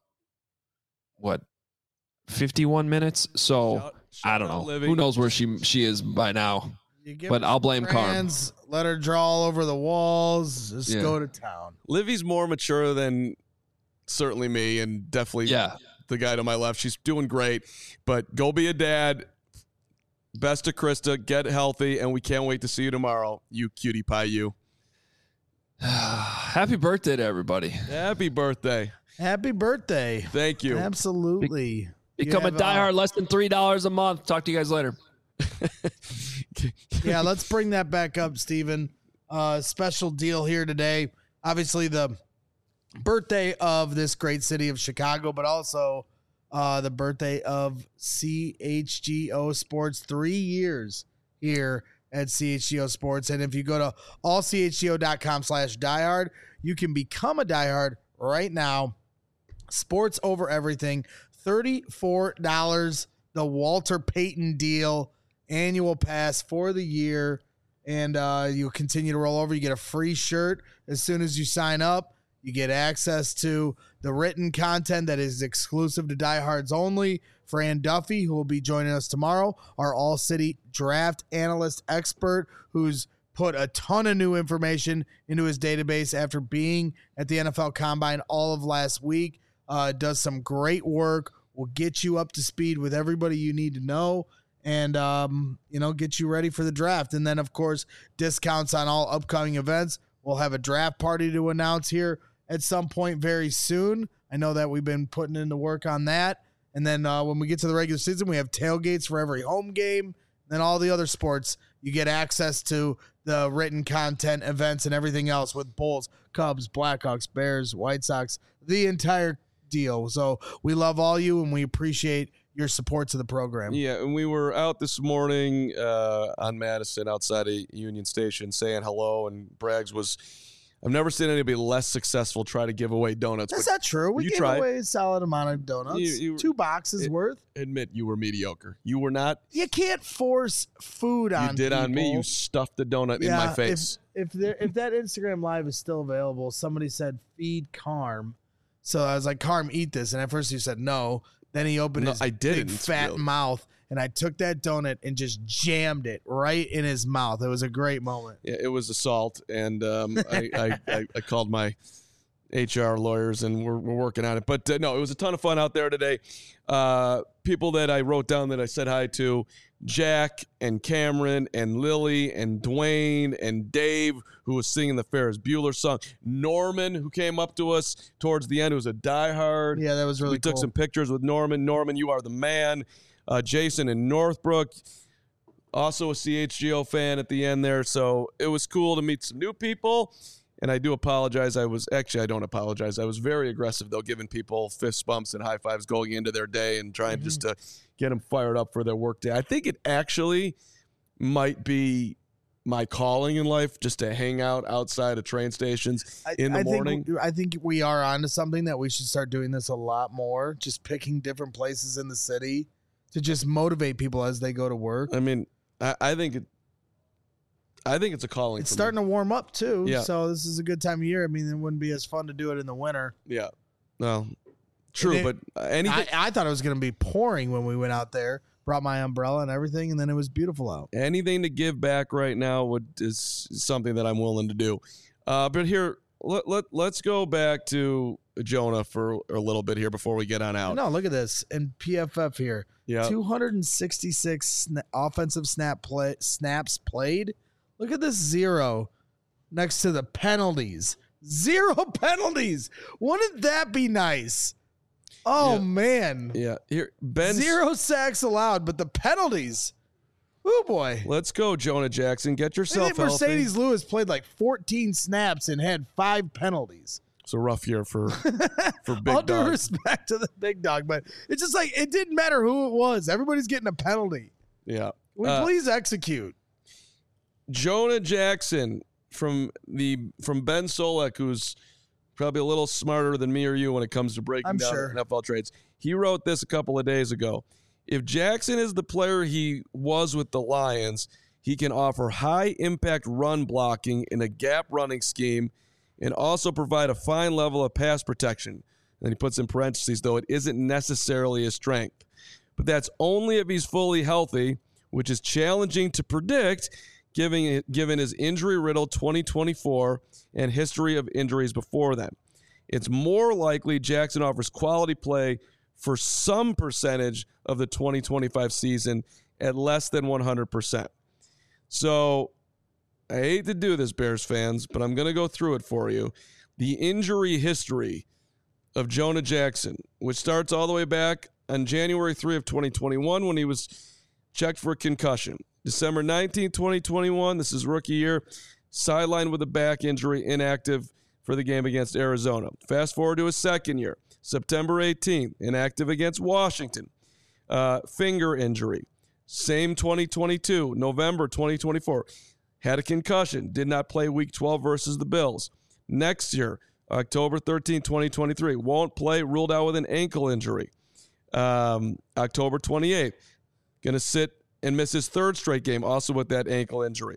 51 minutes. So I don't know. Who knows where she is by now? But I'll blame Carm. Let her draw all over the walls. Just go to town. Livy's more mature than certainly me, and definitely the guy to my left. She's doing great, but go be a dad. Best to Krista. Get healthy, and we can't wait to see you tomorrow. You cutie pie, you. Happy birthday to everybody. Happy birthday. Happy birthday. Thank you. Absolutely. Become a diehard, less than $3 a month. Talk to you guys later. Yeah, let's bring that back up, Steven. Special deal here today. Obviously, the birthday of this great city of Chicago, but also the birthday of CHGO Sports. 3 years here at CHGO Sports. And if you go to allchgo.com/diehard, you can become a diehard right now. Sports over everything. $34, the Walter Payton deal, annual pass for the year. And you continue to roll over. You get a free shirt as soon as you sign up. You get access to the written content that is exclusive to diehards only. Fran Duffy, who will be joining us tomorrow, our all-city draft analyst expert, who's put a ton of new information into his database after being at the NFL Combine all of last week. Does some great work. Will get you up to speed with everybody you need to know, and get you ready for the draft. And then, of course, discounts on all upcoming events. We'll have a draft party to announce here at some point very soon. I know that we've been putting in the work on that. And then when we get to the regular season, we have tailgates for every home game. and all the other sports, you get access to the written content, events, and everything else with Bulls, Cubs, Blackhawks, Bears, White Sox, the entire deal. So we love all you, and we appreciate your support to the program. Yeah, and we were out this morning on Madison outside of Union Station saying hello, and Braggs was – I've never seen anybody less successful try to give away donuts. That's not true. We gave away a solid amount of donuts. You 2 boxes worth. Admit you were mediocre. You were not. You can't force food on You did people. on me. You stuffed the donut in my face. If that Instagram Live is still available, somebody said feed Carm. So I was like, Carm, eat this. And at first he said no. Then he opened his big fat mouth, and I took that donut and just jammed it right in his mouth. It was a great moment. Yeah, it was assault, and I called my HR lawyers, and we're working on it. But no, it was a ton of fun out there today. People that I wrote down that I said hi to, Jack and Cameron and Lily and Dwayne and Dave, who was singing the Ferris Bueller song. Norman, who came up to us towards the end, who was a diehard. Yeah, that was really cool. We took some pictures with Norman. Norman, you are the man. Jason in Northbrook, also a CHGO fan at the end there. So it was cool to meet some new people. And I do apologize. I don't apologize. I was very aggressive, though, giving people fist bumps and high fives going into their day and trying just to get them fired up for their work day. I think it actually might be my calling in life, just to hang out outside of train stations in the morning. I think we are onto something that we should start doing this a lot more, just picking different places in the city to just motivate people as they go to work. I mean, I think it's a calling. It's starting to warm up too. Yeah. So this is a good time of year. I mean, it wouldn't be as fun to do it in the winter. Yeah. No. True, but anything. I thought it was going to be pouring when we went out there. Brought my umbrella and everything, and then it was beautiful out. Anything to give back right now is something that I'm willing to do. But here, let's go back to Jonah for a little bit here before we get on out. No, look at this. And PFF here. Yeah. 266 offensive snaps played. Look at this 0 next to the penalties. 0 penalties. Wouldn't that be nice? Oh, man. Yeah. Here, Ben. 0 sacks allowed, but the penalties. Oh, boy. Let's go, Jonah Jackson. Get yourself healthy. Mercedes Lewis played like 14 snaps and had 5 penalties. It's a rough year for big All dog. due respect to the big dog, but it's just like it didn't matter who it was. Everybody's getting a penalty. Yeah. Will we please execute? Jonah Jackson from Ben Solek, who's probably a little smarter than me or you when it comes to breaking down NFL trades. He wrote this a couple of days ago. If Jackson is the player he was with the Lions, he can offer high-impact run blocking in a gap running scheme and also provide a fine level of pass protection. And then he puts in parentheses, though it isn't necessarily his strength. But that's only if he's fully healthy, which is challenging to predict given his injury-riddled 2024 and history of injuries before then. It's more likely Jackson offers quality play for some percentage of the 2025 season at less than 100%. So I hate to do this, Bears fans, but I'm going to go through it for you. The injury history of Jonah Jackson, which starts all the way back on January 3 of 2021 when he was checked for a concussion. December 19, 2021, this is rookie year, sidelined with a back injury, inactive for the game against Arizona. Fast forward to his second year, September 18th, inactive against Washington. Finger injury. Same 2022, November 2024. Had a concussion, did not play week 12 versus the Bills. Next year, October 13, 2023, won't play, ruled out with an ankle injury. October 28th, going to sit and miss his third straight game, also with that ankle injury.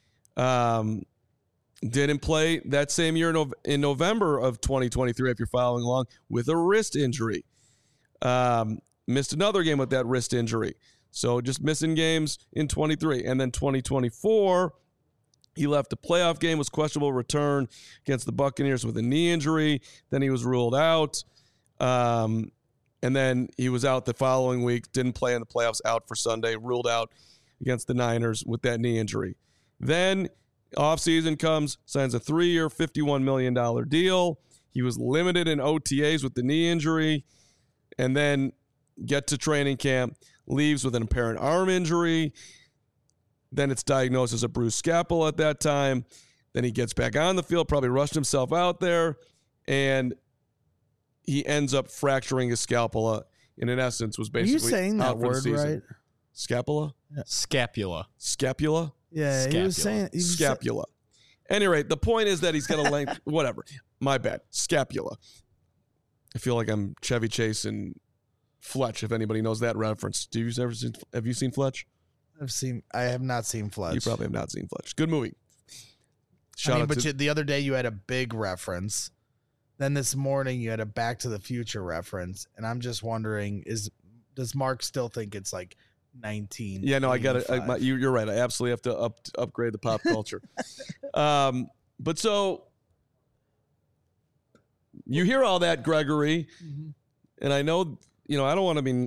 Didn't play that same year in November of 2023, if you're following along, with a wrist injury. Missed another game with that wrist injury. So just missing games in 23. And then 2024, he left a playoff game, was questionable return against the Buccaneers with a knee injury. Then he was ruled out. And then he was out the following week, didn't play in the playoffs, out for Sunday, ruled out against the Niners with that knee injury. Then offseason comes, signs a 3-year, $51 million deal. He was limited in OTAs with the knee injury, and then get to training camp, leaves with an apparent arm injury, Then it's diagnosed as a bruised scapula at that time. Then he gets back on the field, probably rushed himself out there, and he ends up fracturing his scapula. And in essence, was basically Are you saying that word right? Scapula? Yeah. Scapula. Scapula? Yeah, Scapula. he was saying Scapula. Any rate, the point is that he's got a length. Whatever. My bad. Scapula. I feel like I'm Chevy Chase and Fletch. If anybody knows that reference, have you seen Fletch? I have not seen Fletch. You probably have not seen Fletch. Good movie. The other day you had a big reference. Then this morning you had a Back to the Future reference, and I'm just wondering: does Mark still think it's like 19? Yeah, no, I got it. You're right. I absolutely have to upgrade the pop culture. But so you hear all that, Gregory, and I know I don't want to be.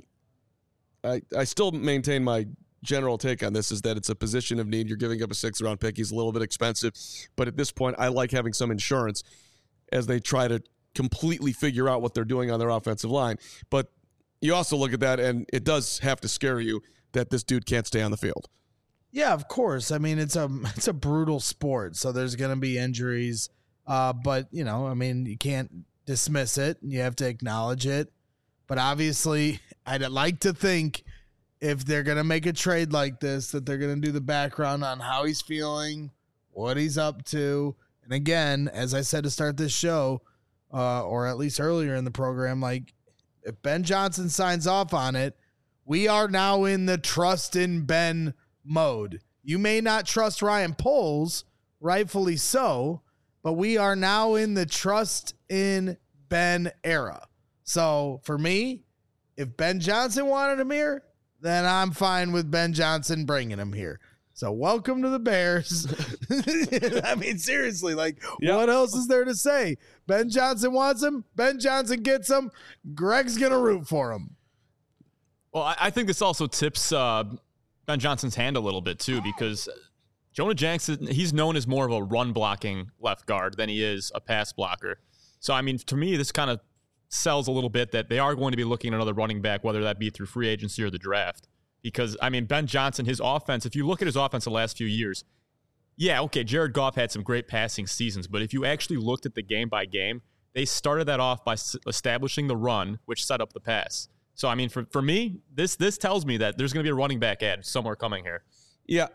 I still maintain my general take on this is that it's a position of need. You're giving up a 6th-round pick. He's a little bit expensive, but at this point, I like having some insurance as they try to completely figure out what they're doing on their offensive line. But you also look at that, and it does have to scare you that this dude can't stay on the field. Yeah, of course. I mean, it's a brutal sport, so there's going to be injuries. But, you can't dismiss it. You have to acknowledge it. But obviously, I'd like to think if they're going to make a trade like this, that they're going to do the background on how he's feeling, what he's up to. And again, as I said to start this show, or at least earlier in the program, like if Ben Johnson signs off on it, we are now in the trust in Ben mode. You may not trust Ryan Poles, rightfully so, but we are now in the trust in Ben era. So for me, if Ben Johnson wanted him here, then I'm fine with Ben Johnson bringing him here. So welcome to the Bears. I mean, seriously, What else is there to say? Ben Johnson wants him. Ben Johnson gets him. Greg's going to root for him. Well, I think this also tips Ben Johnson's hand a little bit, too, because Jonah Jackson, he's known as more of a run-blocking left guard than he is a pass blocker. So, I mean, to me, this kind of sells a little bit that they are going to be looking at another running back, whether that be through free agency or the draft. Because, I mean, Ben Johnson, his offense, if you look at his offense the last few years, yeah, okay, Jared Goff had some great passing seasons, but if you actually looked at the game by game, they started that off by establishing the run, which set up the pass. So, I mean, for me, this tells me that there's going to be a running back ad somewhere coming here. Yeah,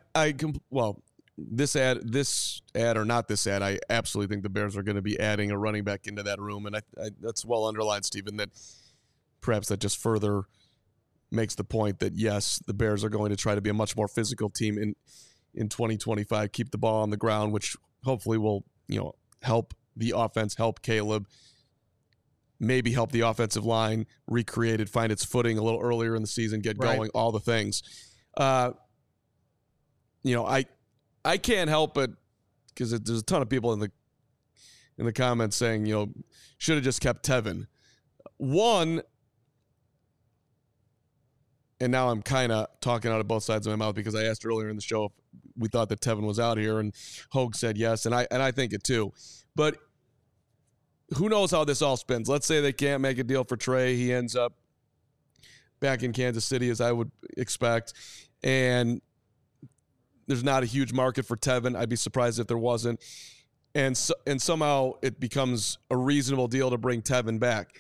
this ad or not this ad, I absolutely think the Bears are going to be adding a running back into that room, and I that's well underlined, Stephen, that perhaps that just further makes the point that, yes, the Bears are going to try to be a much more physical team in 2025, keep the ball on the ground, which hopefully will, help the offense, help Caleb, maybe help the offensive line recreate it, find its footing a little earlier in the season, get going, all the things. I can't help it because there's a ton of people in the comments saying, should have just kept Tevin. One, and now I'm kind of talking out of both sides of my mouth because I asked earlier in the show if we thought that Tevin was out here, and Hogue said yes, and I think it too. But who knows how this all spins? Let's say they can't make a deal for Trey. He ends up back in Kansas City, as I would expect, and there's not a huge market for Tevin. I'd be surprised if there wasn't. And somehow it becomes a reasonable deal to bring Tevin back.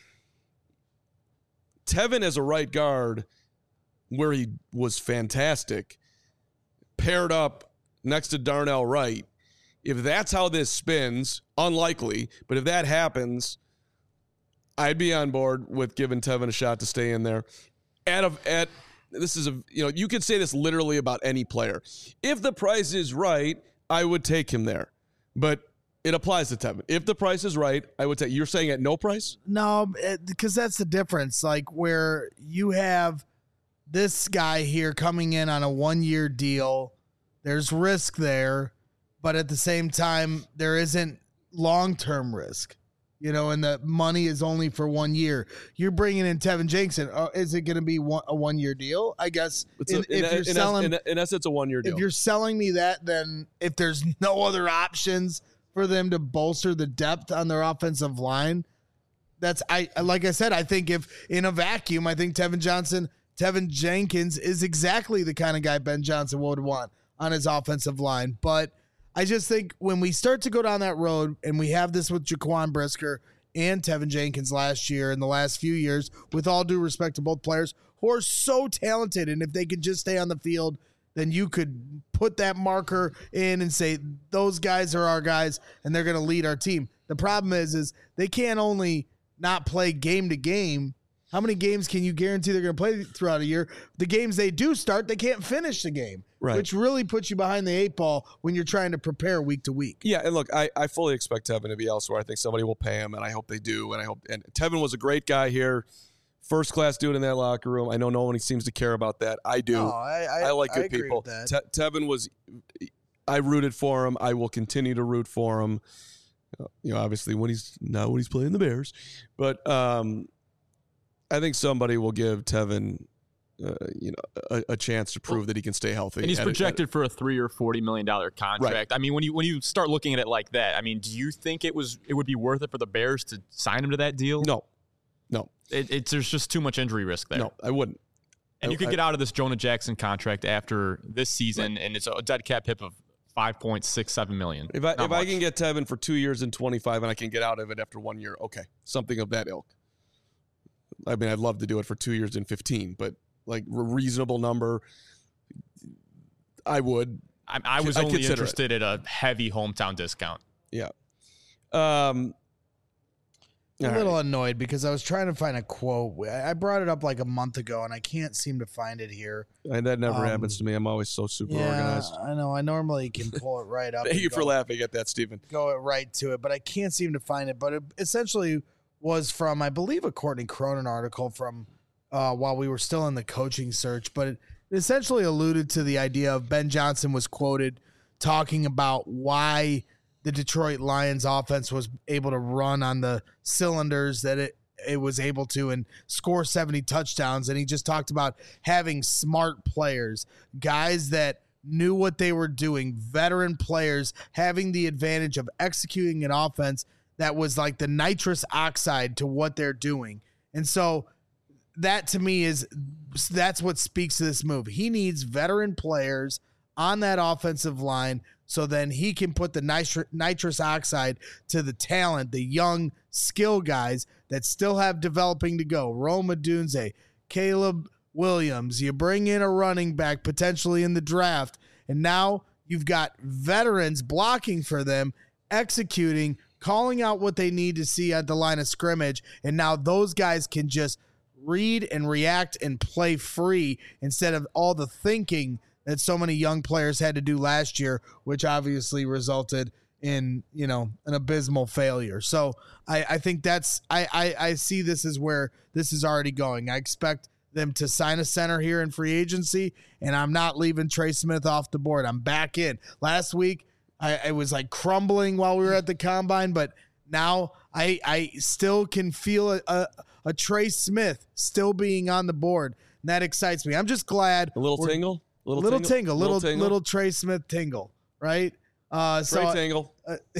Tevin as a right guard, where he was fantastic, paired up next to Darnell Wright. If that's how this spins, unlikely, but if that happens, I'd be on board with giving Tevin a shot to stay in there. This is you could say this literally about any player. If the price is right, I would take him there. But it applies to Tevin. If the price is right, I would take. You're saying at no price? No, because that's the difference. Like where you have this guy here coming in on a 1-year deal, there's risk there, but at the same time, there isn't long-term risk. And the money is only for 1 year. You're bringing in Tevin Jenkins. Is it going to be a 1-year deal? I guess in essence, it's a 1-year deal. If you're selling me that, then if there's no other options for them to bolster the depth on their offensive line, like I said, I think if in a vacuum, I think Tevin Jenkins is exactly the kind of guy Ben Johnson would want. on his offensive line. But I just think when we start to go down that road, and we have this with Jaquan Brisker and Tevin Jenkins last year and the last few years, with all due respect to both players who are so talented, and if they could just stay on the field, then you could put that marker in and say, those guys are our guys, and they're going to lead our team. The problem is they can't only not play game to game. How many games can you guarantee they're going to play throughout a year? The games they do start, they can't finish the game, which really puts you behind the 8 ball when you're trying to prepare week to week. Yeah, and look, I fully expect Tevin to be elsewhere. I think somebody will pay him, and I hope they do. And Tevin was a great guy here. First-class dude in that locker room. I know no one seems to care about that. I do. No, I like good people. Tevin was – I rooted for him. I will continue to root for him. Obviously when he's playing the Bears. But I think somebody will give Tevin a chance to prove that he can stay healthy. And he's projected for a $3 or $40 million contract. Right. I mean, when you start looking at it like that, I mean, do you think it would be worth it for the Bears to sign him to that deal? No. There's just too much injury risk there. No, I wouldn't. And you could get out of this Jonah Jackson contract after this season, and it's a dead cap hit of $5.67 million. If I can get Tevin for 2 years and 25, and I can get out of it after 1 year, okay, something of that ilk. I mean, I'd love to do it for 2 years and 15, but like a reasonable number, I would. I was only interested in a heavy hometown discount. Yeah. I'm a little annoyed because I was trying to find a quote. I brought it up like a month ago, and I can't seem to find it here. And that never happens to me. I'm always so super organized. I know. I normally can pull it right up. Thank you for laughing at that, Stephen. Go right to it, but I can't seem to find it. But it essentially was from, I believe, a Courtney Cronin article from while we were still in the coaching search. But it essentially alluded to the idea of Ben Johnson was quoted talking about why the Detroit Lions offense was able to run on the cylinders that it was able to and score 70 touchdowns. And he just talked about having smart players, guys that knew what they were doing, veteran players having the advantage of executing an offense that was like the nitrous oxide to what they're doing. And so that to me that's what speaks to this move. He needs veteran players on that offensive line, so then he can put the nitrous oxide to the talent, the young skill guys that still have developing to go. Rome Odunze, Caleb Williams. You bring in a running back potentially in the draft, and now you've got veterans blocking for them, executing, calling out what they need to see at the line of scrimmage, and now those guys can just read and react and play free instead of all the thinking that so many young players had to do last year, which obviously resulted in, an abysmal failure. So I think I see this as where this is already going. I expect them to sign a center here in free agency, and I'm not leaving Trey Smith off the board. I'm back in. Last week, I was like crumbling while we were at the combine, but now I still can feel a Trey Smith still being on the board, and that excites me. I'm just glad. A little tingle? Little Trey Smith tingle, right? Trey tingle.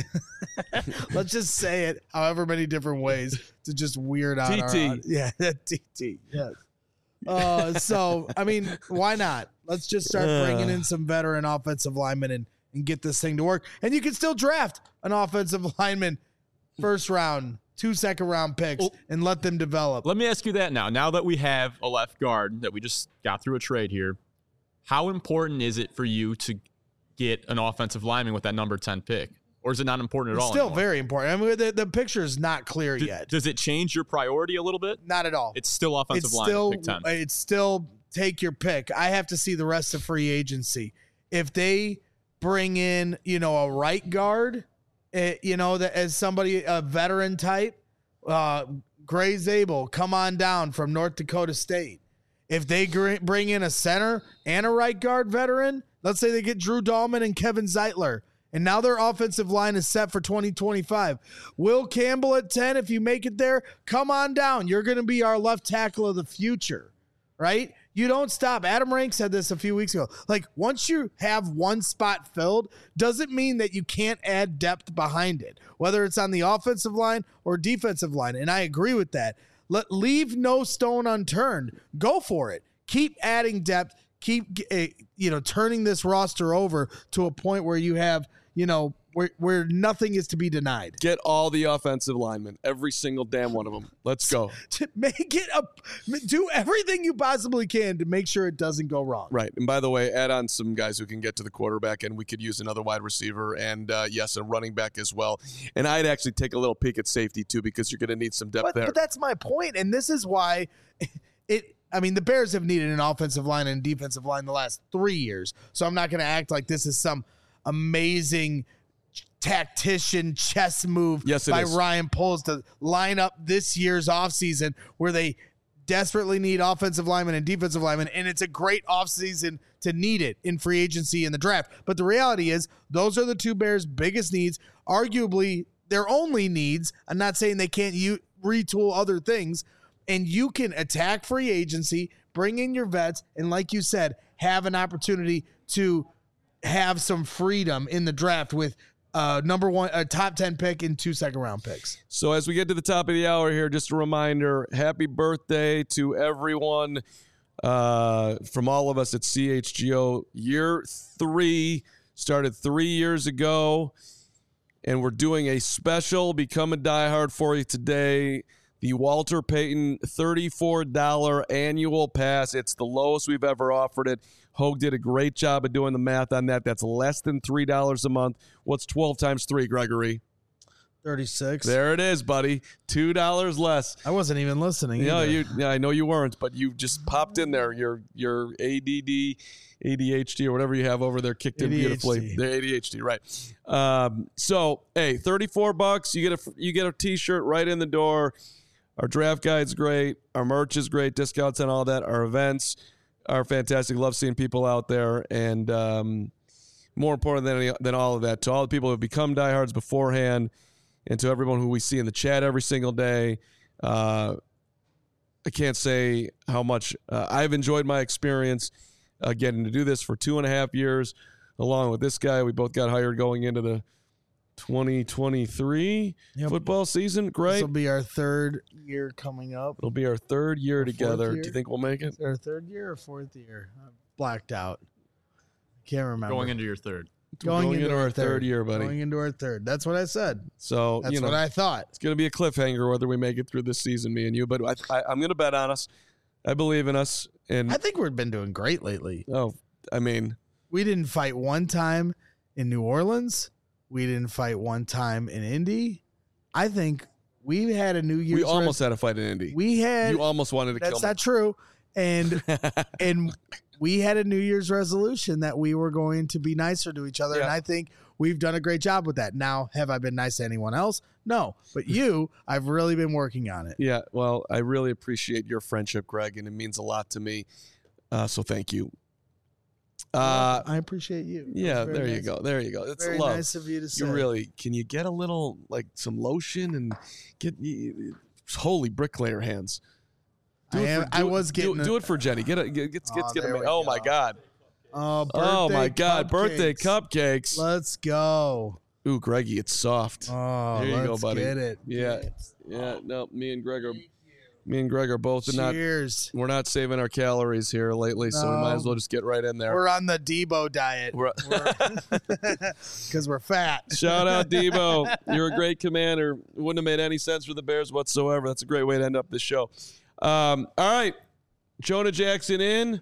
Let's just say it however many different ways to just weird out. TT. TT. Yes. So, I mean, why not? Let's just start bringing in some veteran offensive linemen and get this thing to work. And you can still draft an offensive lineman first round, 2 second-round picks, and let them develop. Let me ask you that now. Now that we have a left guard that we just got through a trade here, how important is it for you to get an offensive lineman with that number 10 pick? Or is it not important at all? It's still anymore? very important. I mean, the picture is not clear yet. Does it change your priority a little bit? Not at all. It's still offensive lineman, pick 10. It's still take your pick. I have to see the rest of free agency. If they bring in, a right guard, that as somebody, a veteran type, Gray Zabel, come on down from North Dakota State. If they bring in a center and a right guard veteran, let's say they get Drew Dahlman and Kevin Zeitler, and now their offensive line is set for 2025. Will Campbell at 10, if you make it there, come on down. You're going to be our left tackle of the future, right? You don't stop. Adam Rank said this a few weeks ago. Like, once you have one spot filled, doesn't mean that you can't add depth behind it, whether it's on the offensive line or defensive line, and I agree with that. Leave no stone unturned. Go for it. Keep adding depth. keep turning this roster over to a point where you have where nothing is to be denied. Get all the offensive linemen, every single damn one of them. Let's go. To make it do everything you possibly can to make sure it doesn't go wrong. Right. And by the way, add on some guys who can get to the quarterback, and we could use another wide receiver and, yes, a running back as well. And I'd actually take a little peek at safety, too, because you're going to need some depth there. But that's my point, and this is why the Bears have needed an offensive line and defensive line the last 3 years, so I'm not going to act like this is some amazing tactician chess move by Ryan Poles to line up this year's offseason where they desperately need offensive linemen and defensive linemen, and it's a great offseason to need it in free agency in the draft. But the reality is those are the two Bears' biggest needs, arguably their only needs. I'm not saying they can't retool other things, and you can attack free agency, bring in your vets, and like you said, have an opportunity to have some freedom in the draft with number one, a top 10 pick and 2 second-round picks. So as we get to the top of the hour here, just a reminder, happy birthday to everyone from all of us at CHGO. Year 3 started 3 years ago, and we're doing a special Become a Diehard for you today. The Walter Payton $34 annual pass. It's the lowest we've ever offered it. Hogue did a great job of doing the math on that. That's less than $3 a month. What's 12 times 3, Gregory? 36. There it is, buddy. $2 less. I wasn't even listening. Yeah, I know you weren't, but you just popped in there. Your ADD, ADHD, or whatever you have over there kicked in beautifully. The ADHD, right? So, hey, $34. You get a T-shirt right in the door. Our draft guide's great. Our merch is great. Discounts and all that. Our events are fantastic. Love seeing people out there. And more important than all of that, to all the people who have become diehards beforehand and to everyone who we see in the chat every single day, I can't say how much I've enjoyed my experience getting to do this for 2.5 years along with this guy. We both got hired going into the 2023 football season. Great. This will be our 3rd year coming up. It'll be our 3rd year together. Do you think we'll make it? Our 3rd year or 4th year? I'm blacked out. Can't remember. Going into your 3rd. Going into our 3rd year, buddy. Going into our 3rd. That's what I said. So that's what I thought. It's going to be a cliffhanger whether we make it through this season, me and you. But I'm going to bet on us. I believe in us. And I think we've been doing great lately. Oh, I mean, we didn't fight one time in New Orleans. We didn't fight one time in Indy. I think we had a New Year's. We almost had a fight in Indy. You almost wanted to kill me. That's not true. And we had a New Year's resolution that we were going to be nicer to each other. Yeah. And I think we've done a great job with that. Now, have I been nice to anyone else? No. But I've really been working on it. Yeah. Well, I really appreciate your friendship, Greg, and it means a lot to me. So thank you. I appreciate you. Yeah, there you go. There you go. It's very love. Nice of you to say. You really, can you get a little, some lotion and get, holy bricklayer hands. Do it for Jenny. Get a, oh my God. Oh my God. Birthday cupcakes. Let's go. Ooh, Greggy, it's soft. Oh, there you go, buddy. Get it. Yeah. Yeah. No, me and Greg are both Cheers. We're not saving our calories here lately, so we might as well just get right in there. We're on the Debo diet. Because we're fat. Shout out, Debo. You're a great commander. It wouldn't have made any sense for the Bears whatsoever. That's a great way to end up this show. All right. Jonah Jackson in.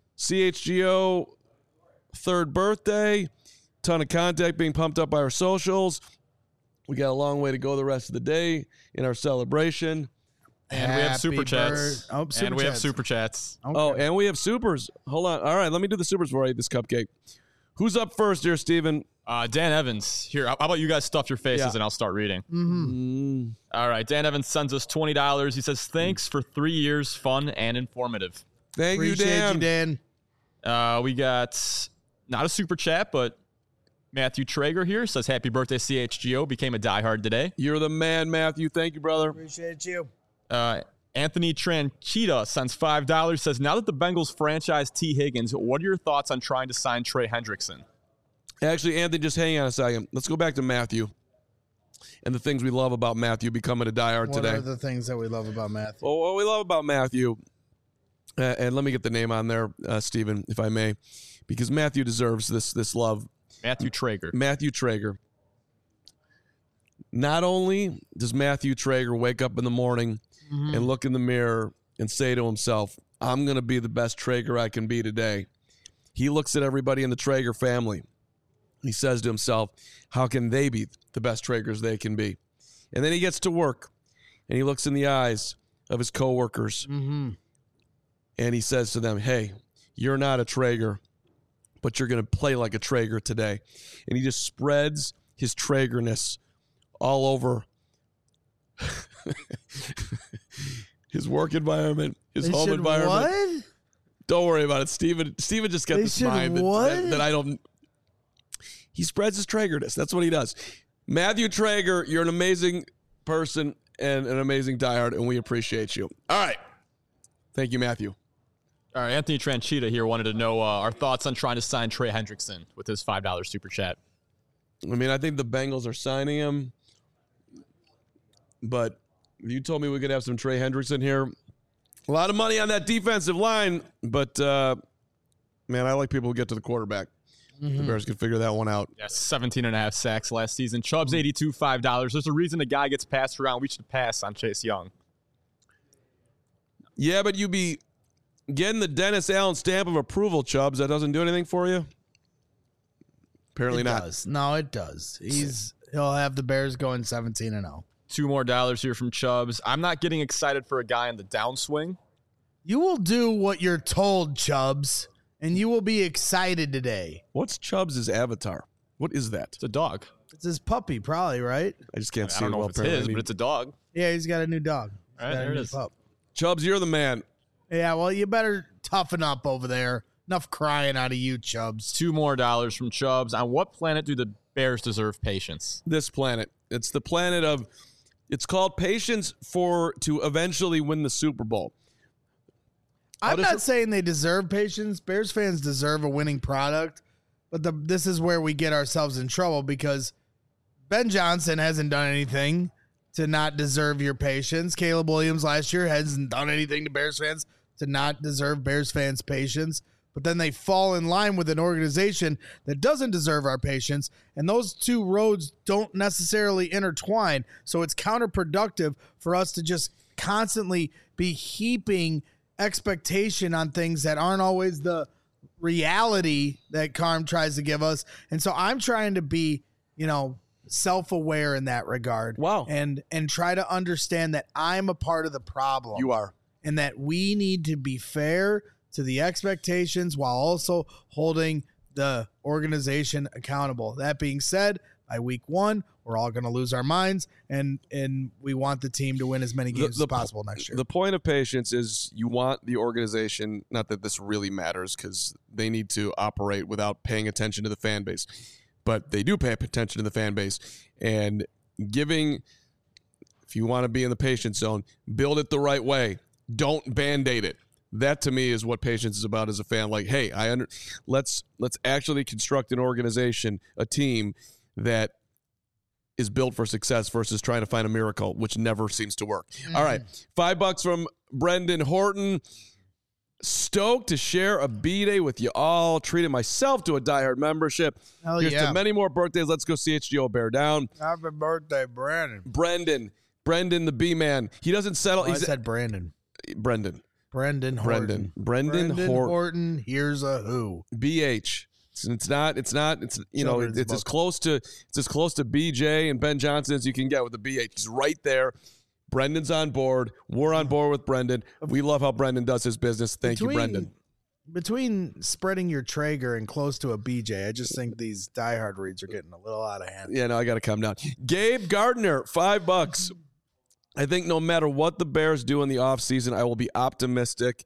CHGO 3rd birthday. Ton of contact being pumped up by our socials. We got a long way to go the rest of the day in our celebration. And we have super chats. And we have super chats. Okay. Oh, and we have supers. Hold on. All right, let me do the supers before I eat this cupcake. Who's up first here, Steven? Dan Evans. Here, how about you guys stuff your faces and I'll start reading. Mm-hmm. All right, Dan Evans sends us $20. He says, thanks for 3 years, fun and informative. Appreciate you, Dan. We got not a super chat, but Matthew Traeger here says, happy birthday, CHGO. Became a diehard today. You're the man, Matthew. Thank you, brother. Appreciate you. Anthony Tranchita sends $5, says, now that the Bengals franchise T. Higgins, what are your thoughts on trying to sign Trey Hendrickson? Actually, Anthony, just hang on a second. Let's go back to Matthew and the things we love about Matthew becoming a diehard today. What are the things that we love about Matthew? Well, what we love about Matthew and let me get the name on there, Steven, if I may, because Matthew deserves this love. Matthew Traeger. Matthew Traeger. Not only does Matthew Traeger wake up in the morning and look in the mirror and say to himself, I'm going to be the best Traeger I can be today. He looks at everybody in the Traeger family. He says to himself, how can they be the best Traegers they can be? And then he gets to work and he looks in the eyes of his coworkers and he says to them, hey, you're not a Traeger, but you're going to play like a Traeger today. And he just spreads his Traegerness all over his work environment, his home environment. What? Don't worry about it, Steven. Steven just got this mind that I don't. He spreads his Traegerness. That's what he does. Matthew Traeger, you're an amazing person and an amazing diehard, and we appreciate you. All right. Thank you, Matthew. All right, Anthony Tranchita here wanted to know our thoughts on trying to sign Trey Hendrickson with his $5 super chat. I mean, I think the Bengals are signing him, but you told me we could have some Trey Hendrickson here. A lot of money on that defensive line, but, man, I like people who get to the quarterback. The Bears could figure that one out. Yeah, 17.5 sacks last season. Chubb's 82, $5. There's a reason a guy gets passed around. We should pass on Chase Young. Yeah, but you be getting the Dennis Allen stamp of approval, Chubbs. That doesn't do anything for you? Apparently not. Does. No, it does. He'll have the Bears going 17-0. $2 more here from Chubbs. I'm not getting excited for a guy in the downswing. You will do what you're told, Chubbs, and you will be excited today. What's Chubbs' avatar? What is that? It's a dog. It's his puppy, probably, right? I just can't I see don't it know well. if it's his, but it's a dog. Yeah, he's got a new dog. All right, there it is. Pup. Chubbs, you're the man. Yeah, well, you better toughen up over there. Enough crying out of you, Chubbs. $2 more from Chubbs. On what planet do the Bears deserve patience? This planet. It's the planet of, it's called patience to eventually win the Super Bowl. I'm not saying they deserve patience. Bears fans deserve a winning product, but this is where we get ourselves in trouble because Ben Johnson hasn't done anything to not deserve your patience. Caleb Williams last year hasn't done anything to Bears fans to not deserve Bears fans' patience. But then they fall in line with an organization that doesn't deserve our patience, and those two roads don't necessarily intertwine. So it's counterproductive for us to just constantly be heaping expectation on things that aren't always the reality that Carm tries to give us. And so I'm trying to be, self-aware in that regard. Wow. And try to understand that I'm a part of the problem. You are. And that we need to be fair to the expectations while also holding the organization accountable. That being said, by week 1, we're all going to lose our minds, and we want the team to win as many games as possible next year. The point of patience is you want the organization, not that this really matters because they need to operate without paying attention to the fan base, but they do pay attention to the fan base. And if you want to be in the patience zone, build it the right way. Don't Band-Aid it. That to me is what patience is about as a fan. Like, hey, let's actually construct an organization, a team that is built for success versus trying to find a miracle, which never seems to work. All right, $5 from Brendan Horton. Stoked to share a B-Day with you all. Treated myself to a diehard membership. Hell Here's yeah. to many more birthdays. Let's go CHGO Bear Down. Happy birthday, Brandon. Brendan the B-Man. He doesn't settle. I said Brandon. Brendan Horton. Brendan Horton. Here's a who. BH. It's as close to BJ and Ben Johnson as you can get with the BH. He's right there. Brendan's on board. We're on board with Brendan. We love how Brendan does his business. Thank you, Brendan. Between spreading your Traeger and close to a BJ, I just think these diehard reads are getting a little out of hand. Yeah, no, I got to calm down. Gabe Gardner, $5. I think no matter what the Bears do in the offseason, I will be optimistic.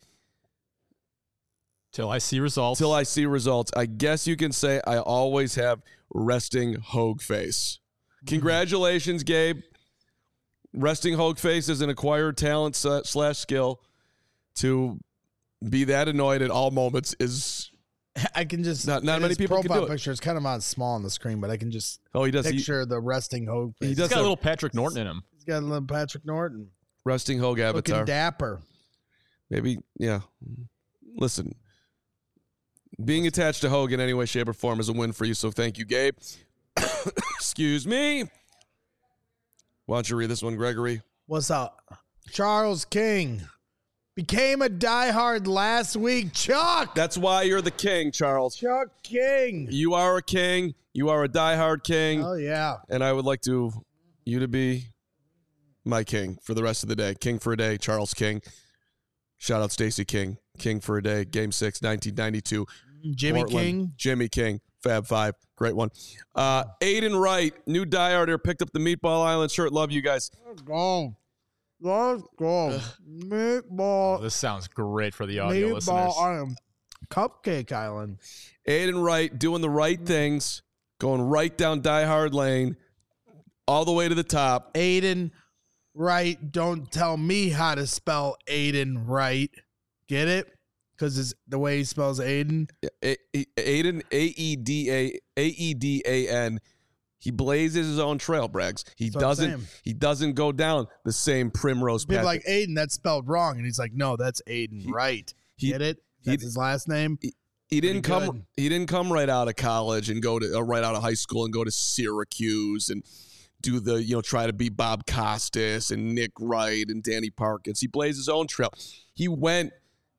Till I see results. I guess you can say I always have resting Hogue face. Congratulations, Gabe. Resting Hogue face is an acquired talent / skill. To be that annoyed at all moments is... I can just... Not many people can do it. Picture is kind of on small on the screen, but I can just he does. picture the resting Hogue face. He's got a little Patrick Norton in him. He's got a little Patrick Norton. Resting Hogue avatar. Looking dapper. Maybe, yeah. Listen, being attached to Hogan in any way, shape, or form is a win for you, so thank you, Gabe. Excuse me. Why don't you read this one, Gregory? What's up? Charles King became a diehard last week. Chuck! That's why you're the king, Charles. Chuck King. You are a king. You are a diehard king. Oh, yeah. And I would like you to be my king for the rest of the day. King for a day, Charles King. Shout out Stacey King. King for a day, Game 6, 1992. Jimmy Portland. King. Jimmy King. Fab Five. Great one. Aiden Wright, new diehard here, picked up the Meatball Island shirt. Love you guys. Let's go. Meatball. Oh, this sounds great for the audio listeners. Island. Cupcake Island. Aiden Wright doing the right things, going right down diehard lane, all the way to the top. Aiden Wright. Don't tell me how to spell Aiden Wright. Get it? Because it's the way he spells Aiden. Aiden, Aedan. He blazes his own trail, Braggs. He doesn't go down the same primrose path. People like Aiden, that's spelled wrong, and he's like, no, that's Aiden Wright. Get it? That's his last name. He didn't come right out of college and go to right out of high school and go to Syracuse and do the try to be Bob Costas and Nick Wright and Danny Parkins. He blazed his own trail. He went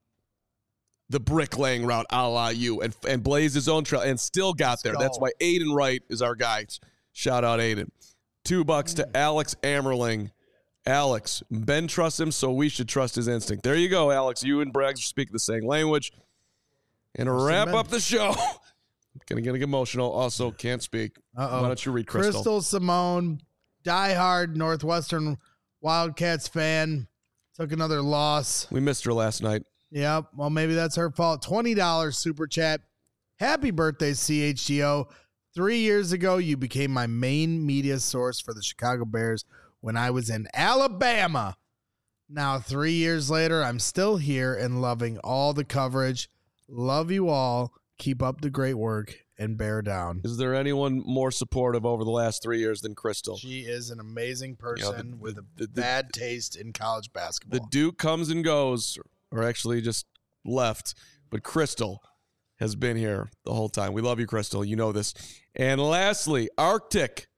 the bricklaying route, a la you, and blazed his own trail and still got there. That's why Aiden Wright is our guy. Shout out Aiden. $2 to Alex Ammerling. Alex, Ben trusts him, so we should trust his instinct. There you go, Alex. You and Braggs speak the same language. And to wrap up the show, gonna get emotional. Also, can't speak. Uh-oh. Why don't you read Crystal? Crystal Simone, diehard Northwestern Wildcats fan, took another loss. We missed her last night. Yep. Well, maybe that's her fault. $20 super chat. Happy birthday, CHGO. 3 years ago, you became my main media source for the Chicago Bears when I was in Alabama. Now, 3 years later, I'm still here and loving all the coverage. Love you all. Keep up the great work and bear down. Is there anyone more supportive over the last 3 years than Crystal? She is an amazing person with a bad taste in college basketball. The Duke comes and goes, or actually just left, but Crystal has been here the whole time. We love you, Crystal. You know this. And lastly, Arctic,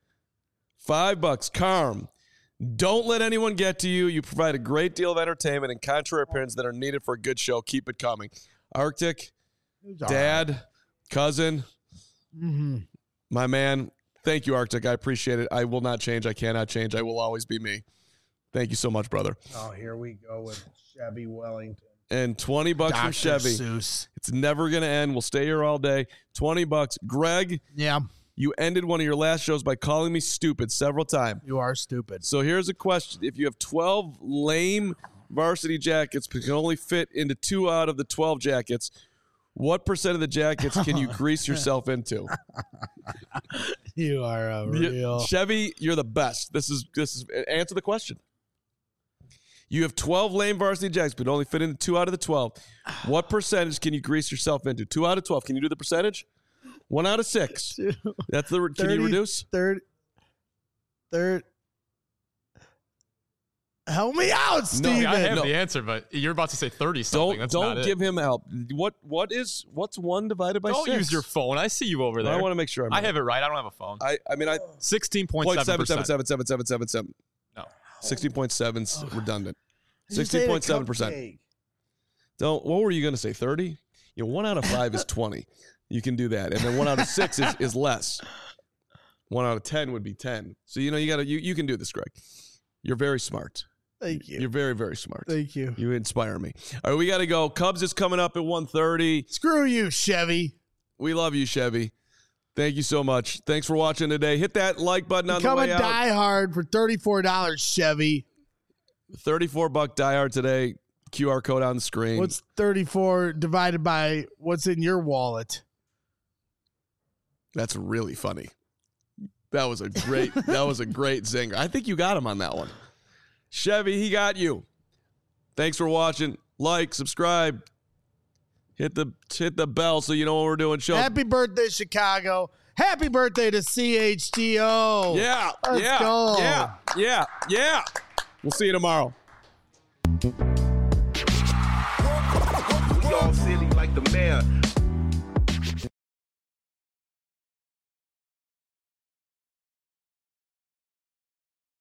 $5. Carm, don't let anyone get to you. You provide a great deal of entertainment and contrary opinions that are needed for a good show. Keep it coming. Arctic, dad, cousin, my man. Thank you, Arctic. I appreciate it. I will not change. I cannot change. I will always be me. Thank you so much, brother. Oh, here we go with Chevy Wellington. And $20 from Chevy. Seuss. It's never going to end. We'll stay here all day. $20. Greg, Yeah, you ended one of your last shows by calling me stupid several times. you are stupid. So here's a question. If you have 12 lame varsity jackets but can only fit into 2 out of the 12 jackets, what percent of the jackets can you grease yourself into? You are a real. Chevy, you're the best. This is answer the question. You have 12 lame varsity jackets, but only fit into 2 out of the 12. What percentage can you grease yourself into? 2 out of 12. Can you do the percentage? 1 out of 6. That's the. Can you reduce? Third. Help me out, Steven. I have the answer, but you're about to say 30 something. Don't give him help. What's 1 divided by 6? Don't use your phone. I see you over there. I want to make sure I have it right. I don't have a phone. I 16.7%. No. No. 16.7 is redundant. 16.7%. What were you going to say? 30? 1 out of 5 is 20. You can do that. And then 1 out of 6 is less. 1 out of 10 would be 10. So you can do this, Greg. You're very smart. Thank you. You're very, very smart. Thank you. You inspire me. All right, we got to go. Cubs is coming up at 1:30. Screw you, Chevy. We love you, Chevy. Thank you so much. Thanks for watching today. Hit that like button on the way out. Become a diehard for $34, Chevy. $34 diehard today. QR code on the screen. What's 34 divided by what's in your wallet? That's really funny. That was a great zinger. I think you got him on that one. Chevy, he got you. Thanks for watching. Like, subscribe. Hit the bell so you know what we're doing. Show. Happy birthday, Chicago. Happy birthday to CHGO. Yeah. Let's go. Yeah. We'll see you tomorrow. City like the mayor.